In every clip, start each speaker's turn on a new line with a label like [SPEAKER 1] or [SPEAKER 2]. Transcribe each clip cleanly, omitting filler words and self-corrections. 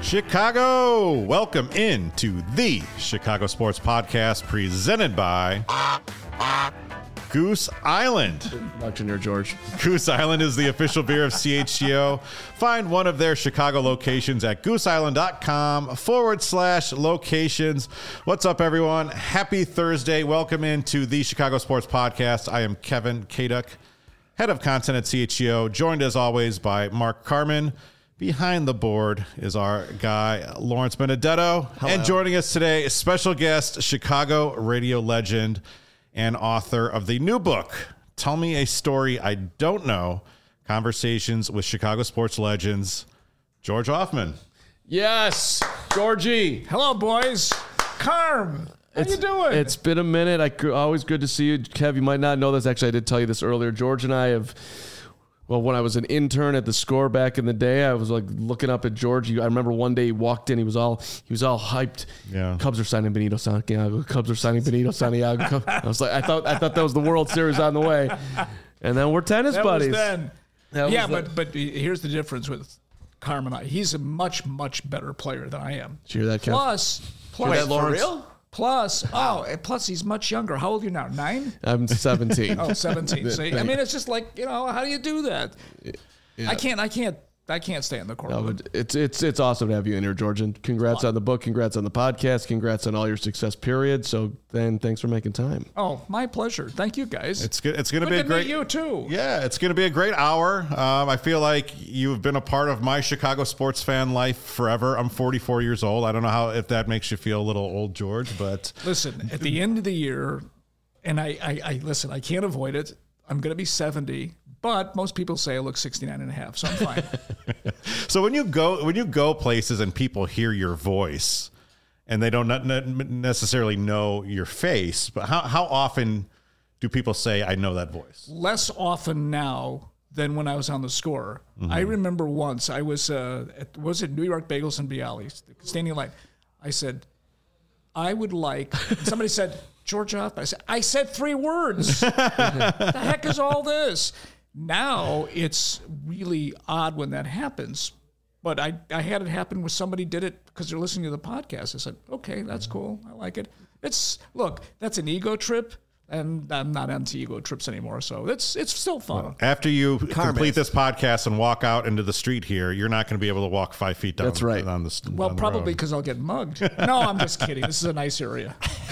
[SPEAKER 1] Chicago, welcome into the Chicago Sports Podcast presented by Goose Island.
[SPEAKER 2] Junior George.
[SPEAKER 1] Goose Island is the official beer of CHGO. Find one of their Chicago locations at gooseisland.com/locations. What's up, everyone? Happy Thursday. Welcome into the Chicago Sports Podcast. I am Kevin Kaduk, head of content at CHGO, joined as always by Mark Carman. Behind the board is our guy, Lawrence Benedetto. Hello. And joining us today, a special guest, Chicago radio legend and author of the new book, Tell Me a Story I Don't Know, Conversations with Chicago Sports Legends, George Hoffman.
[SPEAKER 2] Yes, Georgie.
[SPEAKER 3] Hello, boys. Carm, how you doing?
[SPEAKER 2] It's been a minute. Always good to see you. Kev, you might not know this. Actually, I did tell you this earlier. George and I have... Well, when I was an intern at the Score back in the day, I was like looking up at George. I remember one day he walked in, he was all hyped.
[SPEAKER 1] Yeah.
[SPEAKER 2] Cubs are signing Benito Santiago. Cubs are signing Benito Santiago. I was like, I thought that was the World Series on the way. And then we're tennis buddies.
[SPEAKER 3] Was then. But here's the difference with Carm and I. He's a much better player than I am.
[SPEAKER 2] Did you hear that, Kev?
[SPEAKER 3] Plus,
[SPEAKER 2] that, Lawrence?
[SPEAKER 3] For real? Plus he's much younger. How old are you now? 9?
[SPEAKER 2] I'm 17.
[SPEAKER 3] Oh, 17. See, I mean, it's just like, how do you do that? Yeah. I can't stay in the court.
[SPEAKER 2] No, but it's awesome to have you in here, George. And congrats on the book. Congrats on the podcast. Congrats on all your success, period. So then thanks for making time.
[SPEAKER 3] Oh, my pleasure. Thank you, guys.
[SPEAKER 1] It's good. It's going to be a great...
[SPEAKER 3] meet you, too.
[SPEAKER 1] Yeah, it's going to be a great hour. I feel like you've been a part of my Chicago sports fan life forever. I'm 44 years old. I don't know if that makes you feel a little old, George, but...
[SPEAKER 3] Listen, at the end of the year, and I listen, I can't avoid it. I'm going to be 70. But most people say I look 69 and a half, so I'm fine.
[SPEAKER 1] So when you go places and people hear your voice and they don't necessarily know your face, but how often do people say, I know that voice?
[SPEAKER 3] Less often now than when I was on the Score. Mm-hmm. I remember once I was was it New York Bagels and Bialys, standing in line. I said, I would like, somebody said, George Hoffman. I said 3 words. The heck is all this? Now it's really odd when that happens, but I had it happen when somebody did it because they're listening to the podcast. I said, okay, that's cool. I like it. Look, that's an ego trip, and I'm not into ego trips anymore, so it's still fun.
[SPEAKER 1] Well, after you complete this podcast and walk out into the street here, you're not going to be able to walk 5 feet down.
[SPEAKER 2] That's right.
[SPEAKER 3] Well, probably because I'll get mugged. No, I'm just kidding. This is a nice area.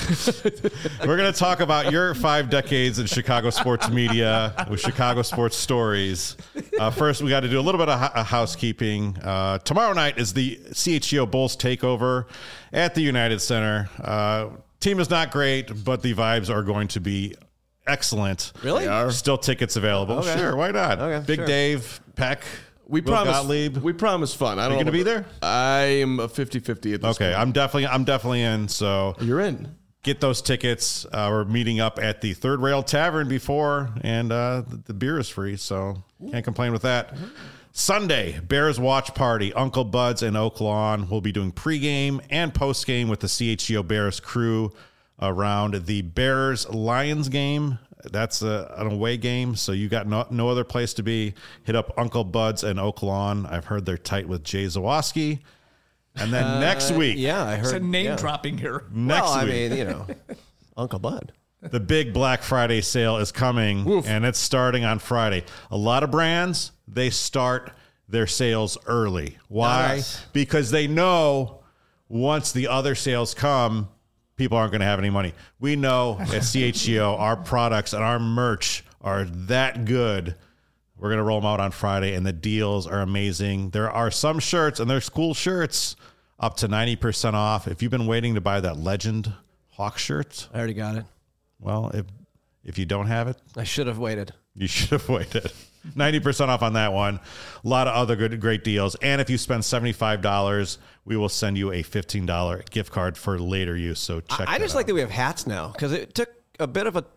[SPEAKER 1] We're going to talk about your 5 decades in Chicago sports media with Chicago sports stories. First, we got to do a little bit of housekeeping. Tomorrow night is the CHGO Bulls takeover at the United Center. Team is not great, but the vibes are going to be excellent.
[SPEAKER 4] Really?
[SPEAKER 1] Still tickets available.
[SPEAKER 4] Okay.
[SPEAKER 1] Sure, why not?
[SPEAKER 4] Okay,
[SPEAKER 1] Big
[SPEAKER 4] sure.
[SPEAKER 1] Dave, Peck,
[SPEAKER 2] We promise fun.
[SPEAKER 1] Are you going to be there?
[SPEAKER 2] I am a 50-50 at this point.
[SPEAKER 1] Okay, I'm definitely in. So
[SPEAKER 2] You're in.
[SPEAKER 1] Get those tickets. We're meeting up at the Third Rail Tavern before, and the beer is free, so can't complain with that. Sunday, Bears watch party. Uncle Bud's in Oak Lawn. We'll be doing pregame and postgame with the CHGO Bears crew around the Bears-Lions game. That's an away game, so you got no other place to be. Hit up Uncle Bud's in Oak Lawn. I've heard they're tight with Jay Zawoski. And then next week.
[SPEAKER 4] Yeah, I heard.
[SPEAKER 3] It's a name dropping here.
[SPEAKER 1] Next week.
[SPEAKER 4] I mean, Uncle Bud.
[SPEAKER 1] The big Black Friday sale is coming, and it's starting on Friday. A lot of brands, they start their sales early. Why?
[SPEAKER 4] Nice.
[SPEAKER 1] Because they know once the other sales come, people aren't going to have any money. We know at CHGO, our products and our merch are that good. We're going to roll them out on Friday, and the deals are amazing. There are some shirts, and there's cool shirts, up to 90% off. If you've been waiting to buy that Legend Hawk shirt,
[SPEAKER 4] I already got it.
[SPEAKER 1] well, if you don't have it,
[SPEAKER 4] I should have waited.
[SPEAKER 1] you should have waited. 90% off on that one. A lot of other great deals. And if you spend $75, we will send you a $15 gift card for later use. So check
[SPEAKER 4] I just
[SPEAKER 1] out.
[SPEAKER 4] like that we have hats now because it took a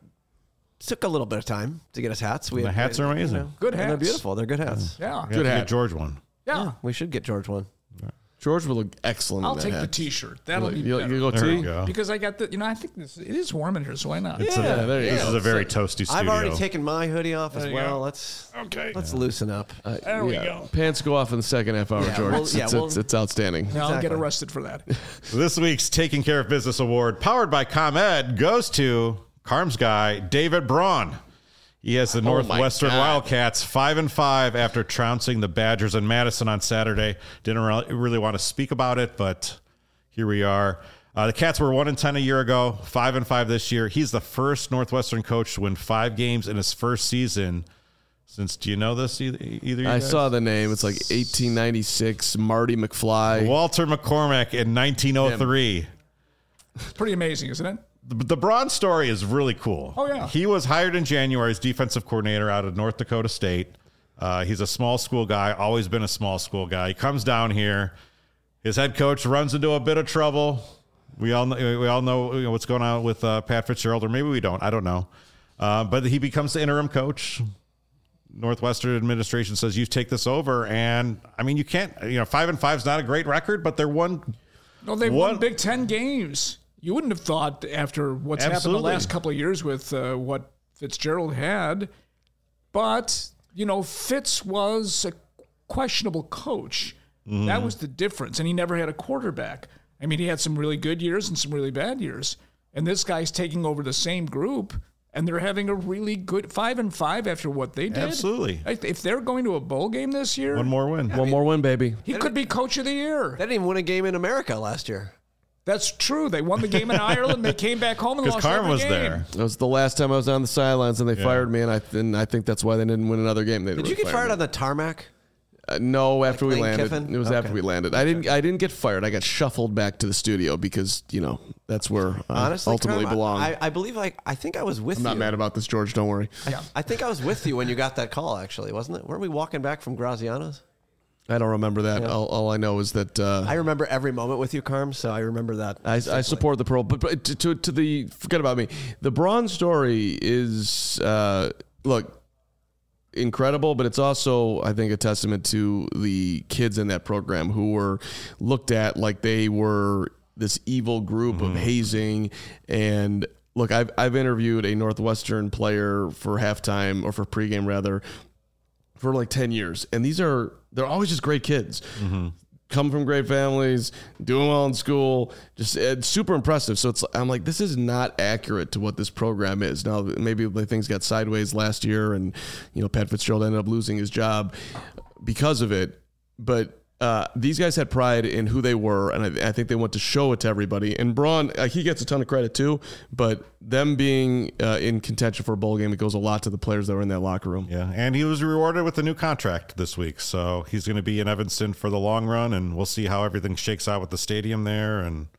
[SPEAKER 4] little bit of time to get us hats.
[SPEAKER 1] The hats are amazing.
[SPEAKER 3] Good
[SPEAKER 4] And
[SPEAKER 3] hats.
[SPEAKER 4] they're beautiful. They're good hats.
[SPEAKER 3] Yeah.
[SPEAKER 1] Good hat. George one.
[SPEAKER 3] Yeah.
[SPEAKER 4] We should get George one.
[SPEAKER 2] George will look excellent.
[SPEAKER 3] I'll
[SPEAKER 2] in that
[SPEAKER 3] take
[SPEAKER 2] hat.
[SPEAKER 3] the T-shirt. That'll be
[SPEAKER 2] You
[SPEAKER 3] better.
[SPEAKER 2] go
[SPEAKER 1] There we
[SPEAKER 2] T.
[SPEAKER 1] go.
[SPEAKER 3] Because I got the, I think it is warm in here, so why not?
[SPEAKER 1] This
[SPEAKER 2] there you go.
[SPEAKER 1] is a very toasty studio.
[SPEAKER 4] I've already taken my hoodie off as
[SPEAKER 3] you
[SPEAKER 4] well.
[SPEAKER 3] go.
[SPEAKER 4] Let's loosen up.
[SPEAKER 3] There we go.
[SPEAKER 2] Pants go off in the second half hour,
[SPEAKER 4] Yeah,
[SPEAKER 2] George.
[SPEAKER 4] well,
[SPEAKER 2] It's outstanding.
[SPEAKER 3] Now I'll get
[SPEAKER 4] Exactly.
[SPEAKER 3] arrested for that.
[SPEAKER 1] This week's Taking Care of Business Award, powered by ComEd, goes to Carm's guy, David Braun. He has the Northwestern
[SPEAKER 2] God.
[SPEAKER 1] Wildcats 5-5 after trouncing the Badgers in Madison on Saturday. Didn't really want to speak about it, but here we are. The Cats were 1-10 a year ago, 5-5 this year. He's the first Northwestern coach to win 5 games in his first season since, do you know this, either you
[SPEAKER 2] I
[SPEAKER 1] guys?
[SPEAKER 2] saw the name. It's like 1896, Marty McFly.
[SPEAKER 1] Walter McCormack in 1903.
[SPEAKER 3] It's pretty amazing, isn't it?
[SPEAKER 1] The Braun story is really cool.
[SPEAKER 3] Oh, yeah.
[SPEAKER 1] He was hired in January as defensive coordinator out of North Dakota State. He's a small school guy, always been a small school guy. He comes down here. His head coach runs into a bit of trouble. We all know what's going on with Pat Fitzgerald, or maybe we don't. I don't know. But he becomes the interim coach. Northwestern administration says, you take this over. And, I mean, you can't, 5-5 is not a great record, but they're one.
[SPEAKER 3] No, they've won Big Ten games. You wouldn't have thought after what's happened the last couple of years with what Fitzgerald had. But, Fitz was a questionable coach.
[SPEAKER 1] Mm-hmm.
[SPEAKER 3] That was the difference. And he never had a quarterback. I mean, he had some really good years and some really bad years. And this guy's taking over the same group, and they're having a really good 5-5 after what they did.
[SPEAKER 1] Absolutely.
[SPEAKER 3] If they're going to a bowl game this year,
[SPEAKER 1] One more win.
[SPEAKER 2] One more win, baby.
[SPEAKER 3] he could be coach of the year.
[SPEAKER 4] They didn't even win a game in America last year.
[SPEAKER 3] That's true. They won the game in Ireland. They came back home and
[SPEAKER 1] Because
[SPEAKER 3] lost
[SPEAKER 1] Carm
[SPEAKER 3] every
[SPEAKER 1] was
[SPEAKER 3] game.
[SPEAKER 1] there.
[SPEAKER 2] That was the last time I was on the sidelines, and they fired me, and I think that's why they didn't win another game.
[SPEAKER 4] Did you get fired on the tarmac?
[SPEAKER 2] No, after we
[SPEAKER 4] Lane
[SPEAKER 2] landed.
[SPEAKER 4] Kiffin?
[SPEAKER 2] It was after
[SPEAKER 4] Okay.
[SPEAKER 2] we landed. I didn't get fired. I got shuffled back to the studio because that's where I
[SPEAKER 4] Honestly,
[SPEAKER 2] ultimately
[SPEAKER 4] Carm,
[SPEAKER 2] belong.
[SPEAKER 4] I believe I think I was with
[SPEAKER 2] I'm
[SPEAKER 4] you.
[SPEAKER 2] not mad about this, George. Don't worry.
[SPEAKER 4] I think I was with you when you got that call. Actually, wasn't it? Weren't we walking back from Graziano's?
[SPEAKER 2] I don't remember that.
[SPEAKER 4] Yeah.
[SPEAKER 2] All I know is that
[SPEAKER 4] I remember every moment with you, Carm. So I remember that.
[SPEAKER 2] I support the pro. But to the forget about me. The Braun story is look incredible, but it's also, I think, a testament to the kids in that program who were looked at like they were this evil group of hazing. And look, I've interviewed a Northwestern player for halftime, or for pregame rather, for like 10 years, and they're always just great kids. Come from great families, doing well in school, just super impressive. So I'm like, this is not accurate to what this program is. Now, maybe things got sideways last year, and Pat Fitzgerald ended up losing his job because of it. But these guys had pride in who they were, and I think they want to show it to everybody. And Braun, he gets a ton of credit too, but them being in contention for a bowl game, it goes a lot to the players that were in that locker room.
[SPEAKER 1] Yeah, and he was rewarded with a new contract this week, so he's going to be in Evanston for the long run, and we'll see how everything shakes out with the stadium there. And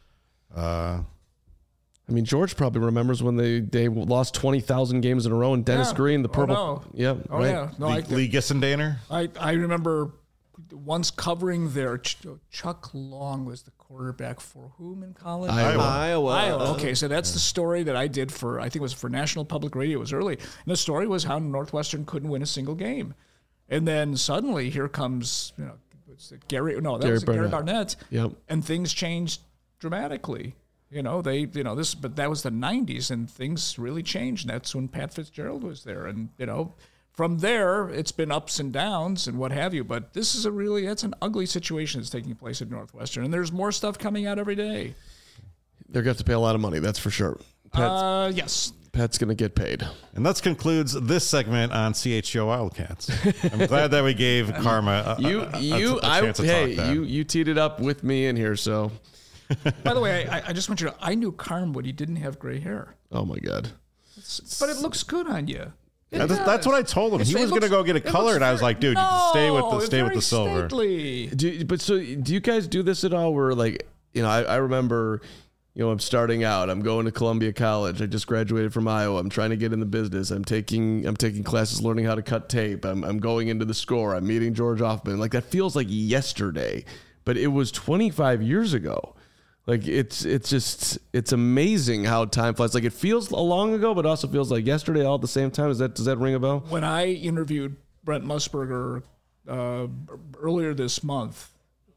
[SPEAKER 2] I mean, George probably remembers when they lost 20,000 games in a row, and Dennis
[SPEAKER 3] Yeah.
[SPEAKER 2] Green, the purple.
[SPEAKER 3] Oh, no.
[SPEAKER 2] Yeah,
[SPEAKER 3] Oh,
[SPEAKER 2] right.
[SPEAKER 3] yeah. No,
[SPEAKER 1] Lee Gissendaner.
[SPEAKER 3] I remember once covering there. Chuck Long was the quarterback for whom in college?
[SPEAKER 4] Iowa.
[SPEAKER 3] Okay, so that's the story that I did for, I think it was for National Public Radio. It was early. And the story was how Northwestern couldn't win a single game. And then suddenly here comes, Gary Barnett.
[SPEAKER 2] Yep.
[SPEAKER 3] And things changed dramatically. But that was the 90s, and things really changed. And that's when Pat Fitzgerald was there. And, from there, it's been ups and downs and what have you. But this is that's an ugly situation that's taking place at Northwestern. And there's more stuff coming out every day.
[SPEAKER 2] They're going to have to pay a lot of money, that's for sure.
[SPEAKER 3] Yes.
[SPEAKER 2] Pat's going to get paid.
[SPEAKER 1] And that concludes this segment on CHGO Wildcats. I'm glad that we gave Karma a chance to talk that.
[SPEAKER 2] You teed it up with me in here, so.
[SPEAKER 3] By the way, I just want you to I knew Carm when he didn't have gray hair.
[SPEAKER 2] Oh, my God.
[SPEAKER 3] But it looks good on you.
[SPEAKER 1] That's what I told him. He was going to go get it colored. I was like, dude, stay with the silver.
[SPEAKER 2] Do you guys do this at all where, like, I remember, I'm starting out. I'm going to Columbia College. I just graduated from Iowa. I'm trying to get in the business. I'm taking classes learning how to cut tape. I'm going into the Score. I'm meeting George Hoffman. Like, that feels like yesterday, but it was 25 years ago. Like, it's amazing how time flies. Like, it feels long ago, but also feels like yesterday all at the same time. Does that ring a bell?
[SPEAKER 3] When I interviewed Brent Musburger earlier this month,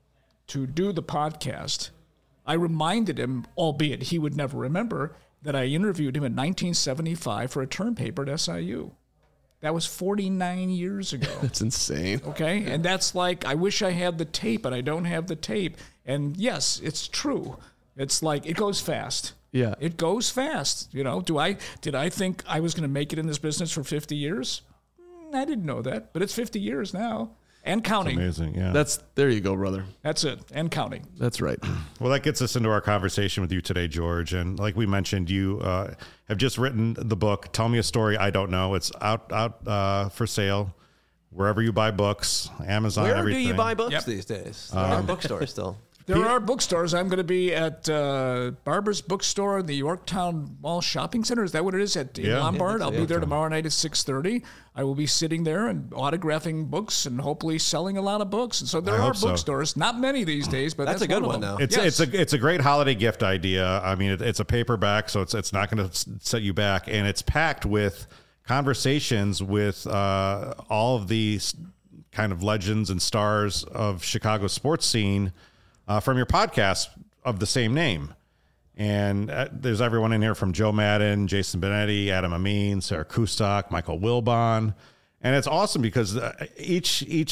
[SPEAKER 3] to do the podcast, I reminded him, albeit he would never remember, that I interviewed him in 1975 for a term paper at SIU. That was 49 years ago.
[SPEAKER 2] That's insane.
[SPEAKER 3] Okay? And that's like, I wish I had the tape, but I don't have the tape. And yes, it's true. It's like, it goes fast.
[SPEAKER 2] Yeah.
[SPEAKER 3] It goes fast. You know, did I think I was going to make it in this business for 50 years? I didn't know that, but it's 50 years now and counting.
[SPEAKER 1] Amazing, yeah.
[SPEAKER 2] There you go, brother.
[SPEAKER 3] That's it, and counting.
[SPEAKER 2] That's right.
[SPEAKER 1] Well, that gets us into our conversation with you today, George. And like we mentioned, you have just written the book, Tell Me a Story I Don't Know. It's out for sale wherever you buy books, Amazon,
[SPEAKER 4] Where
[SPEAKER 1] everything.
[SPEAKER 4] do you buy books these days? There are bookstores still.
[SPEAKER 3] There are bookstores. I'm going to be at Barber's Bookstore in the Yorktown Mall Shopping Center. Is that what it is? At Lombard. I'll be there tomorrow night at 6:30. I will be sitting there and autographing books and hopefully selling a lot of books. And so there are bookstores. Not many these days, but that's
[SPEAKER 4] a good
[SPEAKER 3] one
[SPEAKER 4] one,
[SPEAKER 3] of them.
[SPEAKER 4] though.
[SPEAKER 1] It's a great holiday gift idea. I mean, it's a paperback, so it's not going to set you back, and it's packed with conversations with all of these kind of legends and stars of Chicago's sports scene. From your podcast of the same name. And there's everyone in here from Joe Madden, Jason Benetti, Adam Amin, Sarah Kustok, Michael Wilbon. And it's awesome because each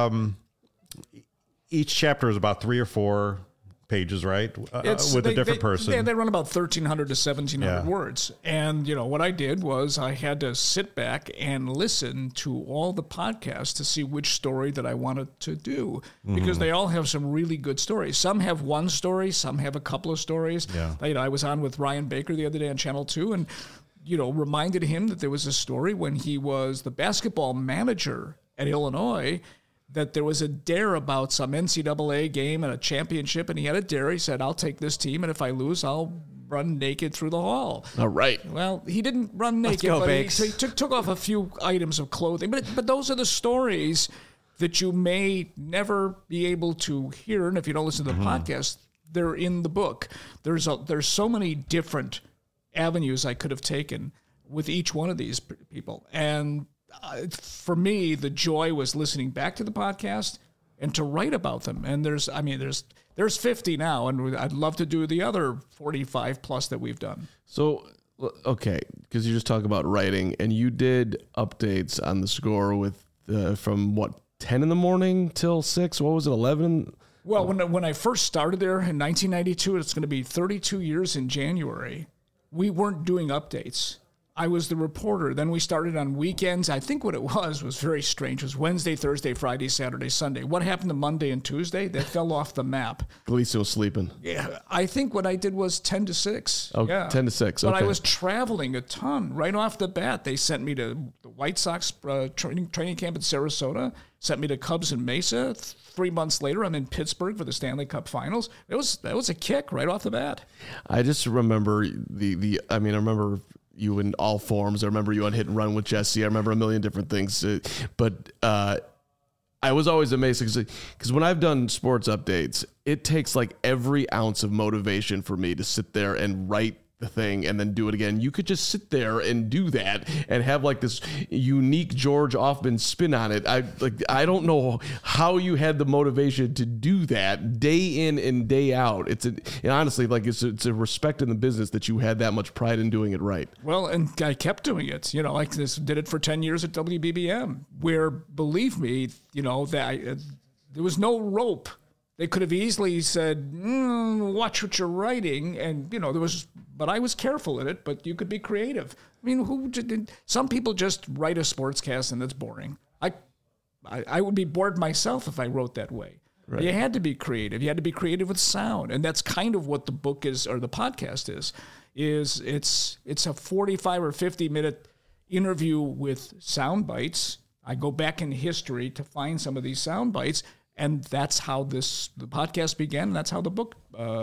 [SPEAKER 1] chapter is about 3 or 4 pages, right? With a different person.
[SPEAKER 3] They run about 1,300 to 1,700 words. And, you know, what I did was I had to sit back and listen to all the podcasts to see which story that I wanted to do. Because they all have some really good stories. Some have one story, some have a couple of stories.
[SPEAKER 1] Yeah.
[SPEAKER 3] You know, I was on with Ryan Baker the other day on Channel 2 and, you know, reminded him that there was a story when he was the basketball manager at Illinois, that there was a dare about some NCAA game and a championship, and he had a dare. He said, I'll take this team, and if I lose, I'll run naked through the hall.
[SPEAKER 2] All right.
[SPEAKER 3] Well, he didn't run naked,
[SPEAKER 4] go,
[SPEAKER 3] but
[SPEAKER 4] Bakes.
[SPEAKER 3] he took off a few items of clothing. But those are the stories that you may never be able to hear, and if you don't listen to the podcast, they're in the book. There's so many different avenues I could have taken with each one of these people, and for me, the joy was listening back to the podcast and to write about them. And there's 50 now, and I'd love to do the other 45 plus that we've done.
[SPEAKER 2] So, okay, because you just talk about writing, and you did updates on the score with from what, 10 in the morning till 6? What was it, 11?
[SPEAKER 3] Well, when I first started there in 1992, it's going to be 32 years in January, we weren't doing updates. I was the reporter. Then we started on weekends. I think what it was very strange. It was Wednesday, Thursday, Friday, Saturday, Sunday. What happened to Monday and Tuesday? That fell off the map.
[SPEAKER 2] Galicio was sleeping.
[SPEAKER 3] Yeah, I think what I did was 10 to 6.
[SPEAKER 2] Oh,
[SPEAKER 3] yeah.
[SPEAKER 2] 10 to 6.
[SPEAKER 3] But
[SPEAKER 2] Okay.
[SPEAKER 3] I was traveling a ton right off the bat. They sent me to the White Sox training camp in Sarasota, sent me to Cubs in Mesa. 3 months later, I'm in Pittsburgh for the Stanley Cup Finals. That was a kick right off the bat.
[SPEAKER 2] I just remember I remember you in all forms. I remember you on Hit and Run with Jesse. I remember a million different things. But I was always amazed because when I've done sports updates, it takes like every ounce of motivation for me to sit there and write the thing and then do it again. You could just sit there and do that and have like this unique George Offman spin on it. I don't know how you had the motivation to do that day in and day out. And honestly, like it's a respect in the business that you had that much pride in doing it right.
[SPEAKER 3] Well, and I kept doing it. You know, like this, did it for 10 years at WBBM, where, believe me, you know, that there was no rope. They could have easily said, watch what you're writing. And, you know, but I was careful in it, but you could be creative. I mean, some people just write a sportscast and it's boring. I would be bored myself if I wrote that way. Right. You had to be creative. You had to be creative with sound. And that's kind of what the book is, or the podcast is it's a 45 or 50 minute interview with sound bites. I go back in history to find some of these sound bites. And that's how the podcast began. And that's how the book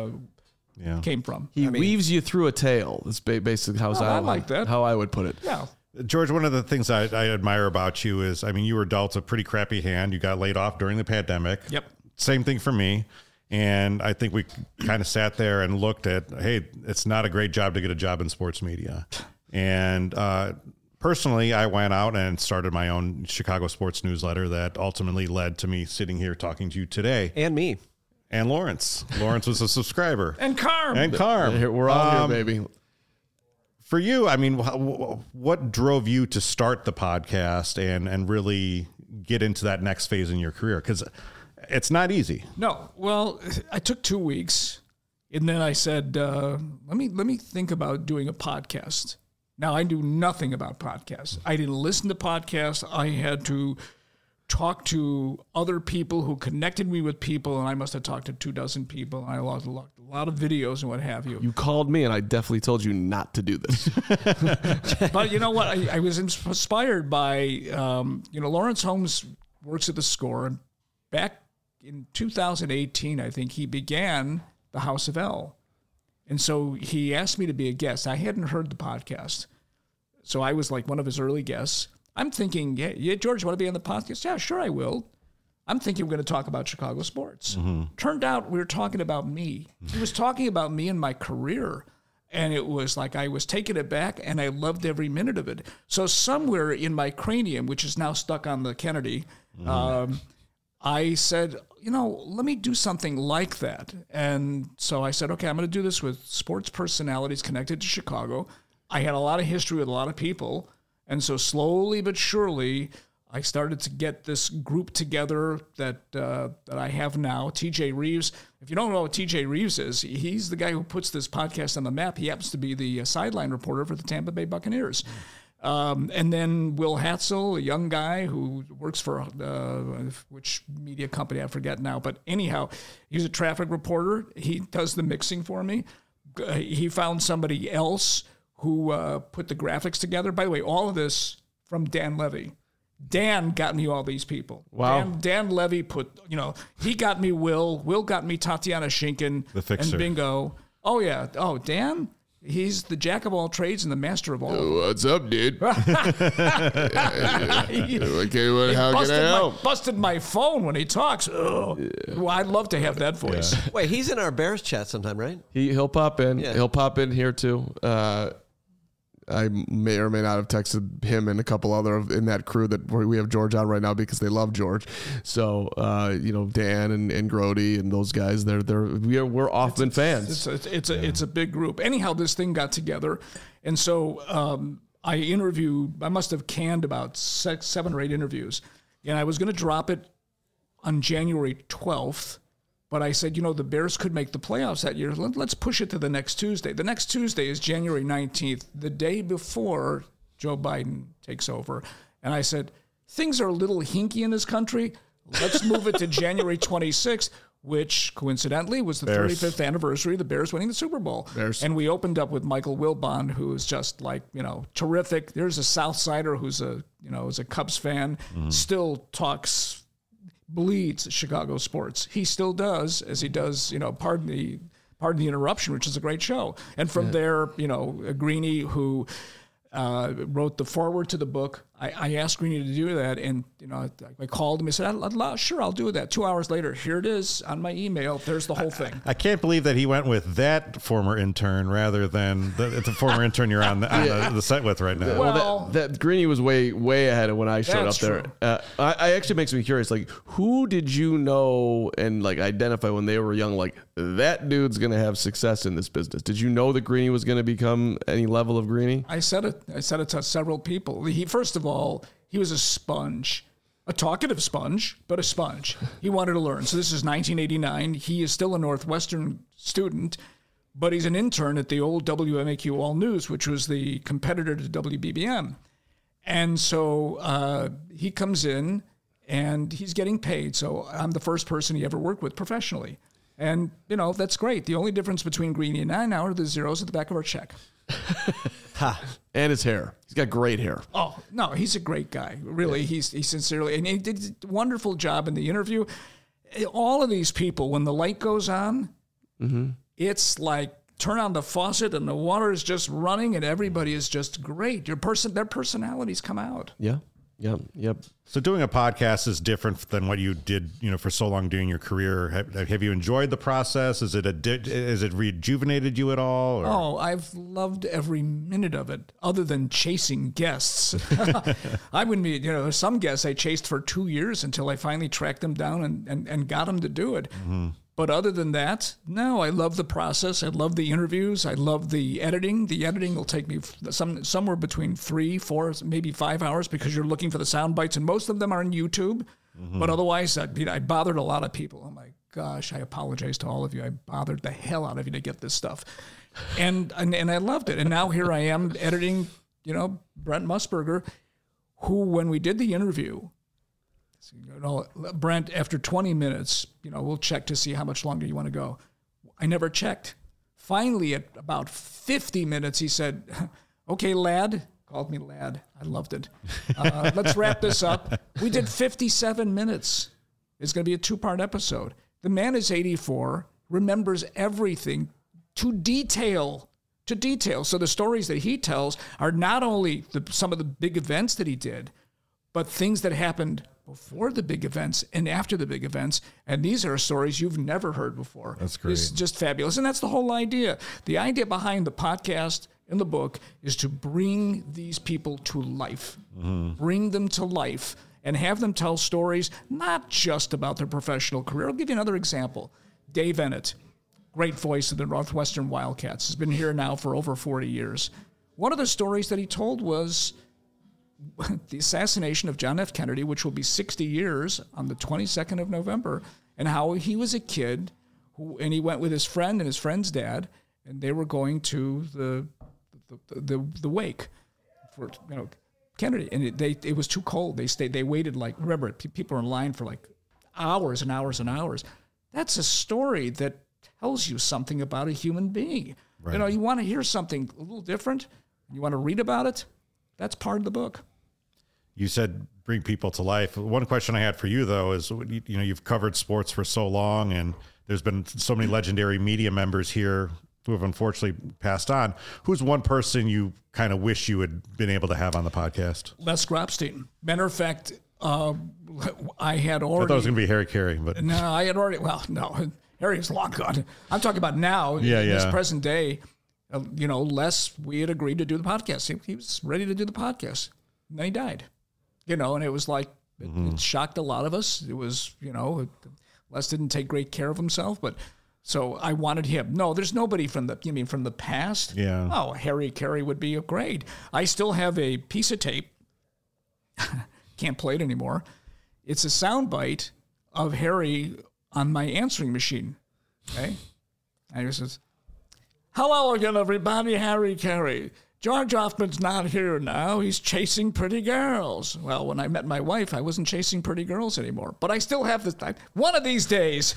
[SPEAKER 3] came from.
[SPEAKER 2] He weaves you through a tale. That's basically how I would put it.
[SPEAKER 3] Yeah.
[SPEAKER 1] George, one of the things I admire about you is, I mean, you were dealt a pretty crappy hand. You got laid off during the pandemic.
[SPEAKER 3] Yep.
[SPEAKER 1] Same thing for me. And I think we kind of sat there and looked at, hey, it's not a great job to get a job in sports media. And personally, I went out and started my own Chicago sports newsletter that ultimately led to me sitting here talking to you today.
[SPEAKER 4] And me.
[SPEAKER 1] And Lawrence. Lawrence was a subscriber.
[SPEAKER 3] And Carm.
[SPEAKER 1] And Carm.
[SPEAKER 2] We're all here, baby.
[SPEAKER 1] For you, I mean, what drove you to start the podcast and really get into that next phase in your career? Because it's not easy.
[SPEAKER 3] No. Well, I took 2 weeks, and then I said, let me think about doing a podcast. Now, I knew nothing about podcasts. I didn't listen to podcasts. I had to talk to other people who connected me with people, and I must have talked to 24 people. I lost a lot of videos and what have you.
[SPEAKER 2] You called me, and I definitely told you not to do this.
[SPEAKER 3] But you know what? I was inspired by, Lawrence Holmes works at the Score. And back in 2018, I think he began the House of L. And so he asked me to be a guest. I hadn't heard the podcast. So I was like one of his early guests. I'm thinking, yeah, George, you want to be on the podcast? Yeah, sure, I will. I'm thinking we're going to talk about Chicago sports. Turned out we were talking about me. He was talking about me and my career. And it was like I was taking it back, and I loved every minute of it. So somewhere in my cranium, which is now stuck on the Kennedy, I said, let me do something like that. And so I said, okay, I'm going to do this with sports personalities connected to Chicago. I had a lot of history with a lot of people. And so slowly but surely, I started to get this group together that I have now. TJ Reeves. If you don't know what TJ Reeves is, he's the guy who puts this podcast on the map. He happens to be the sideline reporter for the Tampa Bay Buccaneers. And then Will Hatzel, a young guy who works for which media company, I forget now. But anyhow, he's a traffic reporter. He does the mixing for me. He found somebody else who put the graphics together. By the way, all of this from Dan Levy. Dan got me all these people.
[SPEAKER 2] Wow.
[SPEAKER 3] Dan Levy he got me Will. Will got me Tatiana Schinken.
[SPEAKER 1] The fixer.
[SPEAKER 3] And Bingo. Oh, yeah. Oh, Dan? He's the jack of all trades and the master of all.
[SPEAKER 2] What's up, dude? Okay, how can I help?
[SPEAKER 3] Busted my phone when he talks. Oh. Well, I'd love to have that voice.
[SPEAKER 4] Yeah. Wait, he's in our Bears chat sometime, right?
[SPEAKER 2] He'll pop in.
[SPEAKER 4] Yeah.
[SPEAKER 2] He'll pop in here too. I may or may not have texted him and a couple other in that crew that we have George on right now because they love George. So Dan and Grody and those guys, we're often fans.
[SPEAKER 3] It's a big group. Anyhow, this thing got together, and so I must have canned about 7 or 8 interviews, and I was going to drop it on January 12th. But I said, the Bears could make the playoffs that year. Let's push it to the next Tuesday. The next Tuesday is January 19th, the day before Joe Biden takes over. And I said, things are a little hinky in this country. Let's move it to January 26th, which coincidentally was the 35th anniversary of the Bears winning the Super Bowl. And we opened up with Michael Wilbon, who is just like, terrific. There's a South Sider who's is a Cubs fan, still bleeds Chicago sports. He still does, as he does, pardon the interruption, which is a great show. And from there, Greeny, who wrote the foreword to the book, I asked Greeny to do that, and I called him. He said, "Sure, I'll do that." 2 hours later, here it is on my email. There's the whole thing.
[SPEAKER 1] I can't believe that he went with that former intern rather than the former intern you're on the set with right now.
[SPEAKER 2] Well, that Greeny was way ahead of when I showed up there. I actually makes me curious. Like, who did you know and like identify when they were young? Like, that dude's gonna have success in this business. Did you know that Greeny was gonna become any level of Greeny?
[SPEAKER 3] I said it to several people. First of all, he was a sponge, a talkative sponge, but a sponge. He wanted to learn. So this is 1989. He is still a Northwestern student, but he's an intern at the old WMAQ All News, which was the competitor to WBBM. And so he comes in, and he's getting paid. So I'm the first person he ever worked with professionally. And, that's great. The only difference between Greeny and I now are the zeros at the back of our check.
[SPEAKER 2] And his hair. He's got great hair.
[SPEAKER 3] Oh, no, he's a great guy. Really, yeah. He sincerely, and he did a wonderful job in the interview. All of these people, when the light goes on, it's like turn on the faucet and the water is just running and everybody is just great. Their personalities come out.
[SPEAKER 2] Yeah. Yep.
[SPEAKER 1] So doing a podcast is different than what you did, for so long doing your career. Have you enjoyed the process? Is it rejuvenated you at all? Or?
[SPEAKER 3] Oh, I've loved every minute of it, other than chasing guests. I wouldn't be, some guests I chased for 2 years until I finally tracked them down and got them to do it. But other than that, no, I love the process. I love the interviews. I love the editing. The editing will take me somewhere between 3, 4, maybe 5 hours because you're looking for the sound bites, and most of them are on YouTube. But otherwise, I bothered a lot of people. Oh my gosh, I apologize to all of you. I bothered the hell out of you to get this stuff. And I loved it. And now here I am editing, Brent Musburger, who, when we did the interview, Brent, after 20 minutes, we'll check to see how much longer you want to go. I never checked. Finally, at about 50 minutes, he said, okay, lad. Called me lad. I loved it. Let's wrap this up. We did 57 minutes. It's going to be a 2-part episode. The man is 84, remembers everything to detail. So the stories that he tells are not only some of the big events that he did, but things that happened before the big events and after the big events. And these are stories you've never heard before.
[SPEAKER 1] That's great.
[SPEAKER 3] It's just fabulous. And that's the whole idea. The idea behind the podcast and the book is to bring these people to life, bring them to life, and have them tell stories, not just about their professional career. I'll give you another example. Dave Ennett, great voice of the Northwestern Wildcats, has been here now for over 40 years. One of the stories that he told was the assassination of John F. Kennedy, which will be 60 years on the 22nd of November, and how he was a kid and he went with his friend and his friend's dad, and they were going to the wake for Kennedy, and it was too cold. They waited remember, people were in line for hours and hours and hours. That's a story that tells you something about a human being. Right. You want to hear something a little different, you want to read about it, that's part of the book.
[SPEAKER 1] You said bring people to life. One question I had for you, though, is, you've covered sports for so long, and there's been so many legendary media members here who have unfortunately passed on. Who's one person you kind of wish you had been able to have on the podcast?
[SPEAKER 3] Les Grobstein. Matter of fact, I had already...
[SPEAKER 1] I thought it was going to be Harry Carey, but...
[SPEAKER 3] No, I had already... Well, no, Harry's long gone. I'm talking about now, in this present day. Les, we had agreed to do the podcast. He was ready to do the podcast. And then he died. And it was like, it shocked a lot of us. It was, Les didn't take great care of himself, but so I wanted him. No, there's nobody from the past?
[SPEAKER 1] Yeah.
[SPEAKER 3] Oh, Harry Carey would be great. I still have a piece of tape. Can't play it anymore. It's a soundbite of Harry on my answering machine. Okay? And he says, hello again, everybody, Harry Carey. George Hoffman's not here now. He's chasing pretty girls. Well, when I met my wife, I wasn't chasing pretty girls anymore. But I still have this time. One of these days.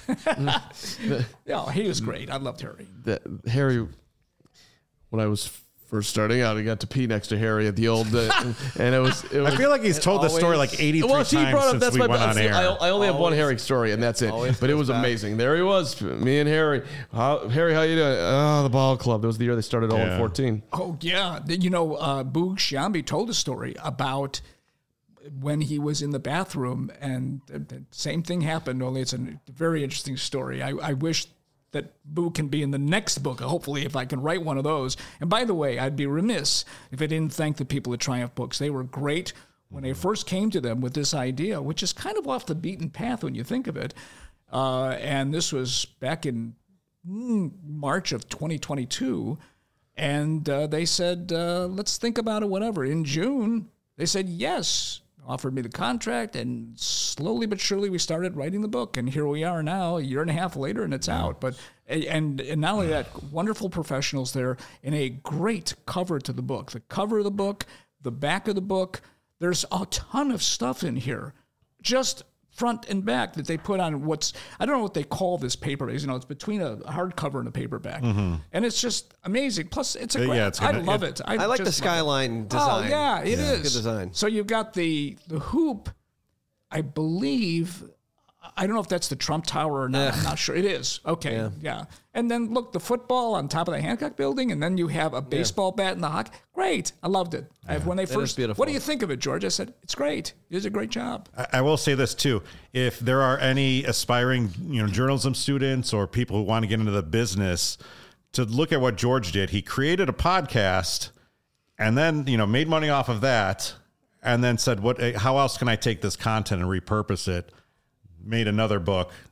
[SPEAKER 3] He was great. I loved Harry.
[SPEAKER 2] Harry, when I was first starting out, I got to pee next to Harry at the old, and it was. I
[SPEAKER 1] feel like he's told this story 83 times since we went on air.
[SPEAKER 2] I only have one Harry story, and that's it. But it was amazing. There he was, me and Harry. Harry, how you doing? Oh, the ball club. That was the year they started 0-14.
[SPEAKER 3] Oh yeah, Boog Sciambi told a story about when he was in the bathroom, and the same thing happened. Only it's a very interesting story. I wish that Boo can be in the next book, hopefully, if I can write one of those. And by the way, I'd be remiss if I didn't thank the people at Triumph Books. They were great when I first came to them with this idea, which is kind of off the beaten path when you think of it. And this was back in March of 2022. And they said, let's think about it, whatever. In June, they said yes, offered me the contract, and slowly but surely we started writing the book, and here we are now, a year and a half later, and it's out. But and not only that, wonderful professionals there, and a great cover to the book. The cover of the book, the back of the book, there's a ton of stuff in here, just front and back, that they put on I don't know what they call this paper. It's between a hardcover and a paperback. And it's just amazing. Plus, it's I love it.
[SPEAKER 4] I like the skyline design.
[SPEAKER 3] Oh, yeah, it is.
[SPEAKER 4] Good design.
[SPEAKER 3] So you've got the hoop, I believe. I don't know if that's the Trump Tower or not. I'm not sure. It is. Okay. Yeah. And then look, the football on top of the Hancock building, and then you have a baseball bat in the hockey. Great. I loved it. When they first, what do you think of it, George? I said, it's great. You did a great job.
[SPEAKER 1] I will say this too. If there are any aspiring, journalism students or people who want to get into the business, to look at what George did, he created a podcast and then, made money off of that, and then said, how else can I take this content and repurpose it? Made another book,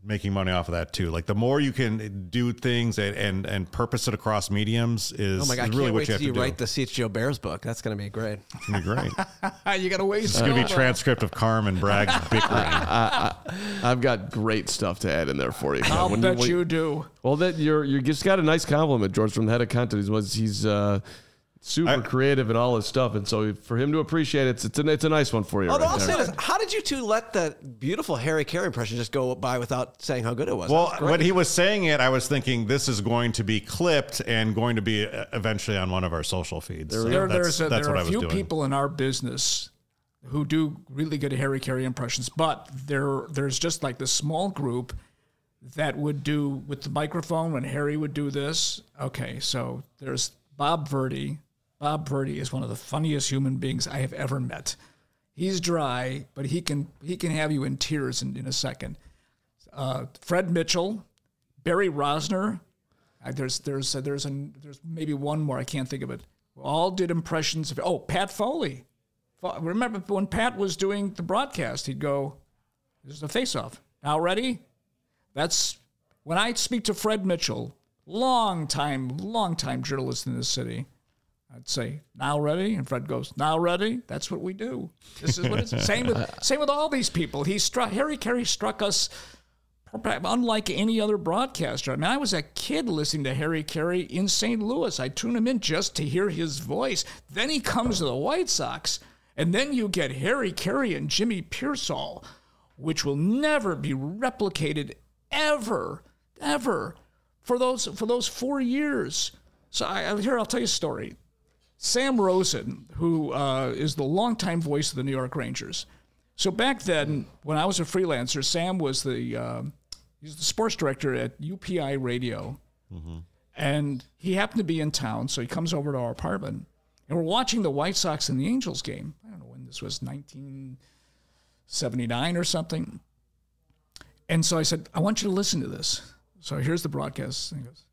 [SPEAKER 1] making money off of that too. Like the more you can do things and purpose it across mediums is,
[SPEAKER 4] Oh my God,
[SPEAKER 1] is
[SPEAKER 4] I
[SPEAKER 1] really
[SPEAKER 4] can't
[SPEAKER 1] what
[SPEAKER 4] wait
[SPEAKER 1] you have
[SPEAKER 4] till
[SPEAKER 1] to
[SPEAKER 4] you
[SPEAKER 1] do.
[SPEAKER 4] write the CHGO Bears book. That's going to be great.
[SPEAKER 1] It's going to be great.
[SPEAKER 3] You got to wait.
[SPEAKER 1] It's going to be transcript of Carm and Bragg bickering.
[SPEAKER 2] I've got great stuff to add in there for you.
[SPEAKER 3] I'll bet you do.
[SPEAKER 2] Well, that you just got a nice compliment, George, from the head of content. He's super creative in all his stuff, and so for him to appreciate it, it's a nice one for you.
[SPEAKER 4] Although
[SPEAKER 2] right
[SPEAKER 4] I'll
[SPEAKER 2] there.
[SPEAKER 4] say this, how did you two let that beautiful Harry Carey impression just go by without saying how good it was?
[SPEAKER 1] Well,
[SPEAKER 4] That was great.
[SPEAKER 1] when he was saying it, I was thinking this is going to be clipped and going to be eventually on one of our social feeds. So
[SPEAKER 3] There
[SPEAKER 1] that's
[SPEAKER 3] are
[SPEAKER 1] what I
[SPEAKER 3] a
[SPEAKER 1] was
[SPEAKER 3] few
[SPEAKER 1] doing.
[SPEAKER 3] people in our business who do really good Harry Carey impressions, but there's just like this small group that would do with the microphone when Harry would do this. Okay, so there's Bob Verdi. Bob Verdi is one of the funniest human beings I have ever met. He's dry, but he can have you in tears in a second. Fred Mitchell, Barry Rosner. There's maybe one more, I can't think of it. All did impressions of Pat Foley. Remember when Pat was doing the broadcast, he'd go, "This is a face-off. Now ready?" That's when I speak to Fred Mitchell, long time journalist in this city. I'd say, "Now ready?" And Fred goes, "Now ready?" That's what we do. This is what it's same with all these people. Harry Carey struck us unlike any other broadcaster. I mean, I was a kid listening to Harry Carey in St. Louis. I tune him in just to hear his voice. Then he comes to the White Sox, and then you get Harry Carey and Jimmy Pearsall, which will never be replicated ever for those 4 years. So I'll tell you a story. Sam Rosen, who is the longtime voice of the New York Rangers. So back then, when I was a freelancer, Sam was he's the sports director at UPI Radio. Mm-hmm. And he happened to be in town, so he comes over to our apartment. And we're watching the White Sox and the Angels game. I don't know when this was, 1979 or something. And so I said, "I want you to listen to this." So here's the broadcast. And he goes,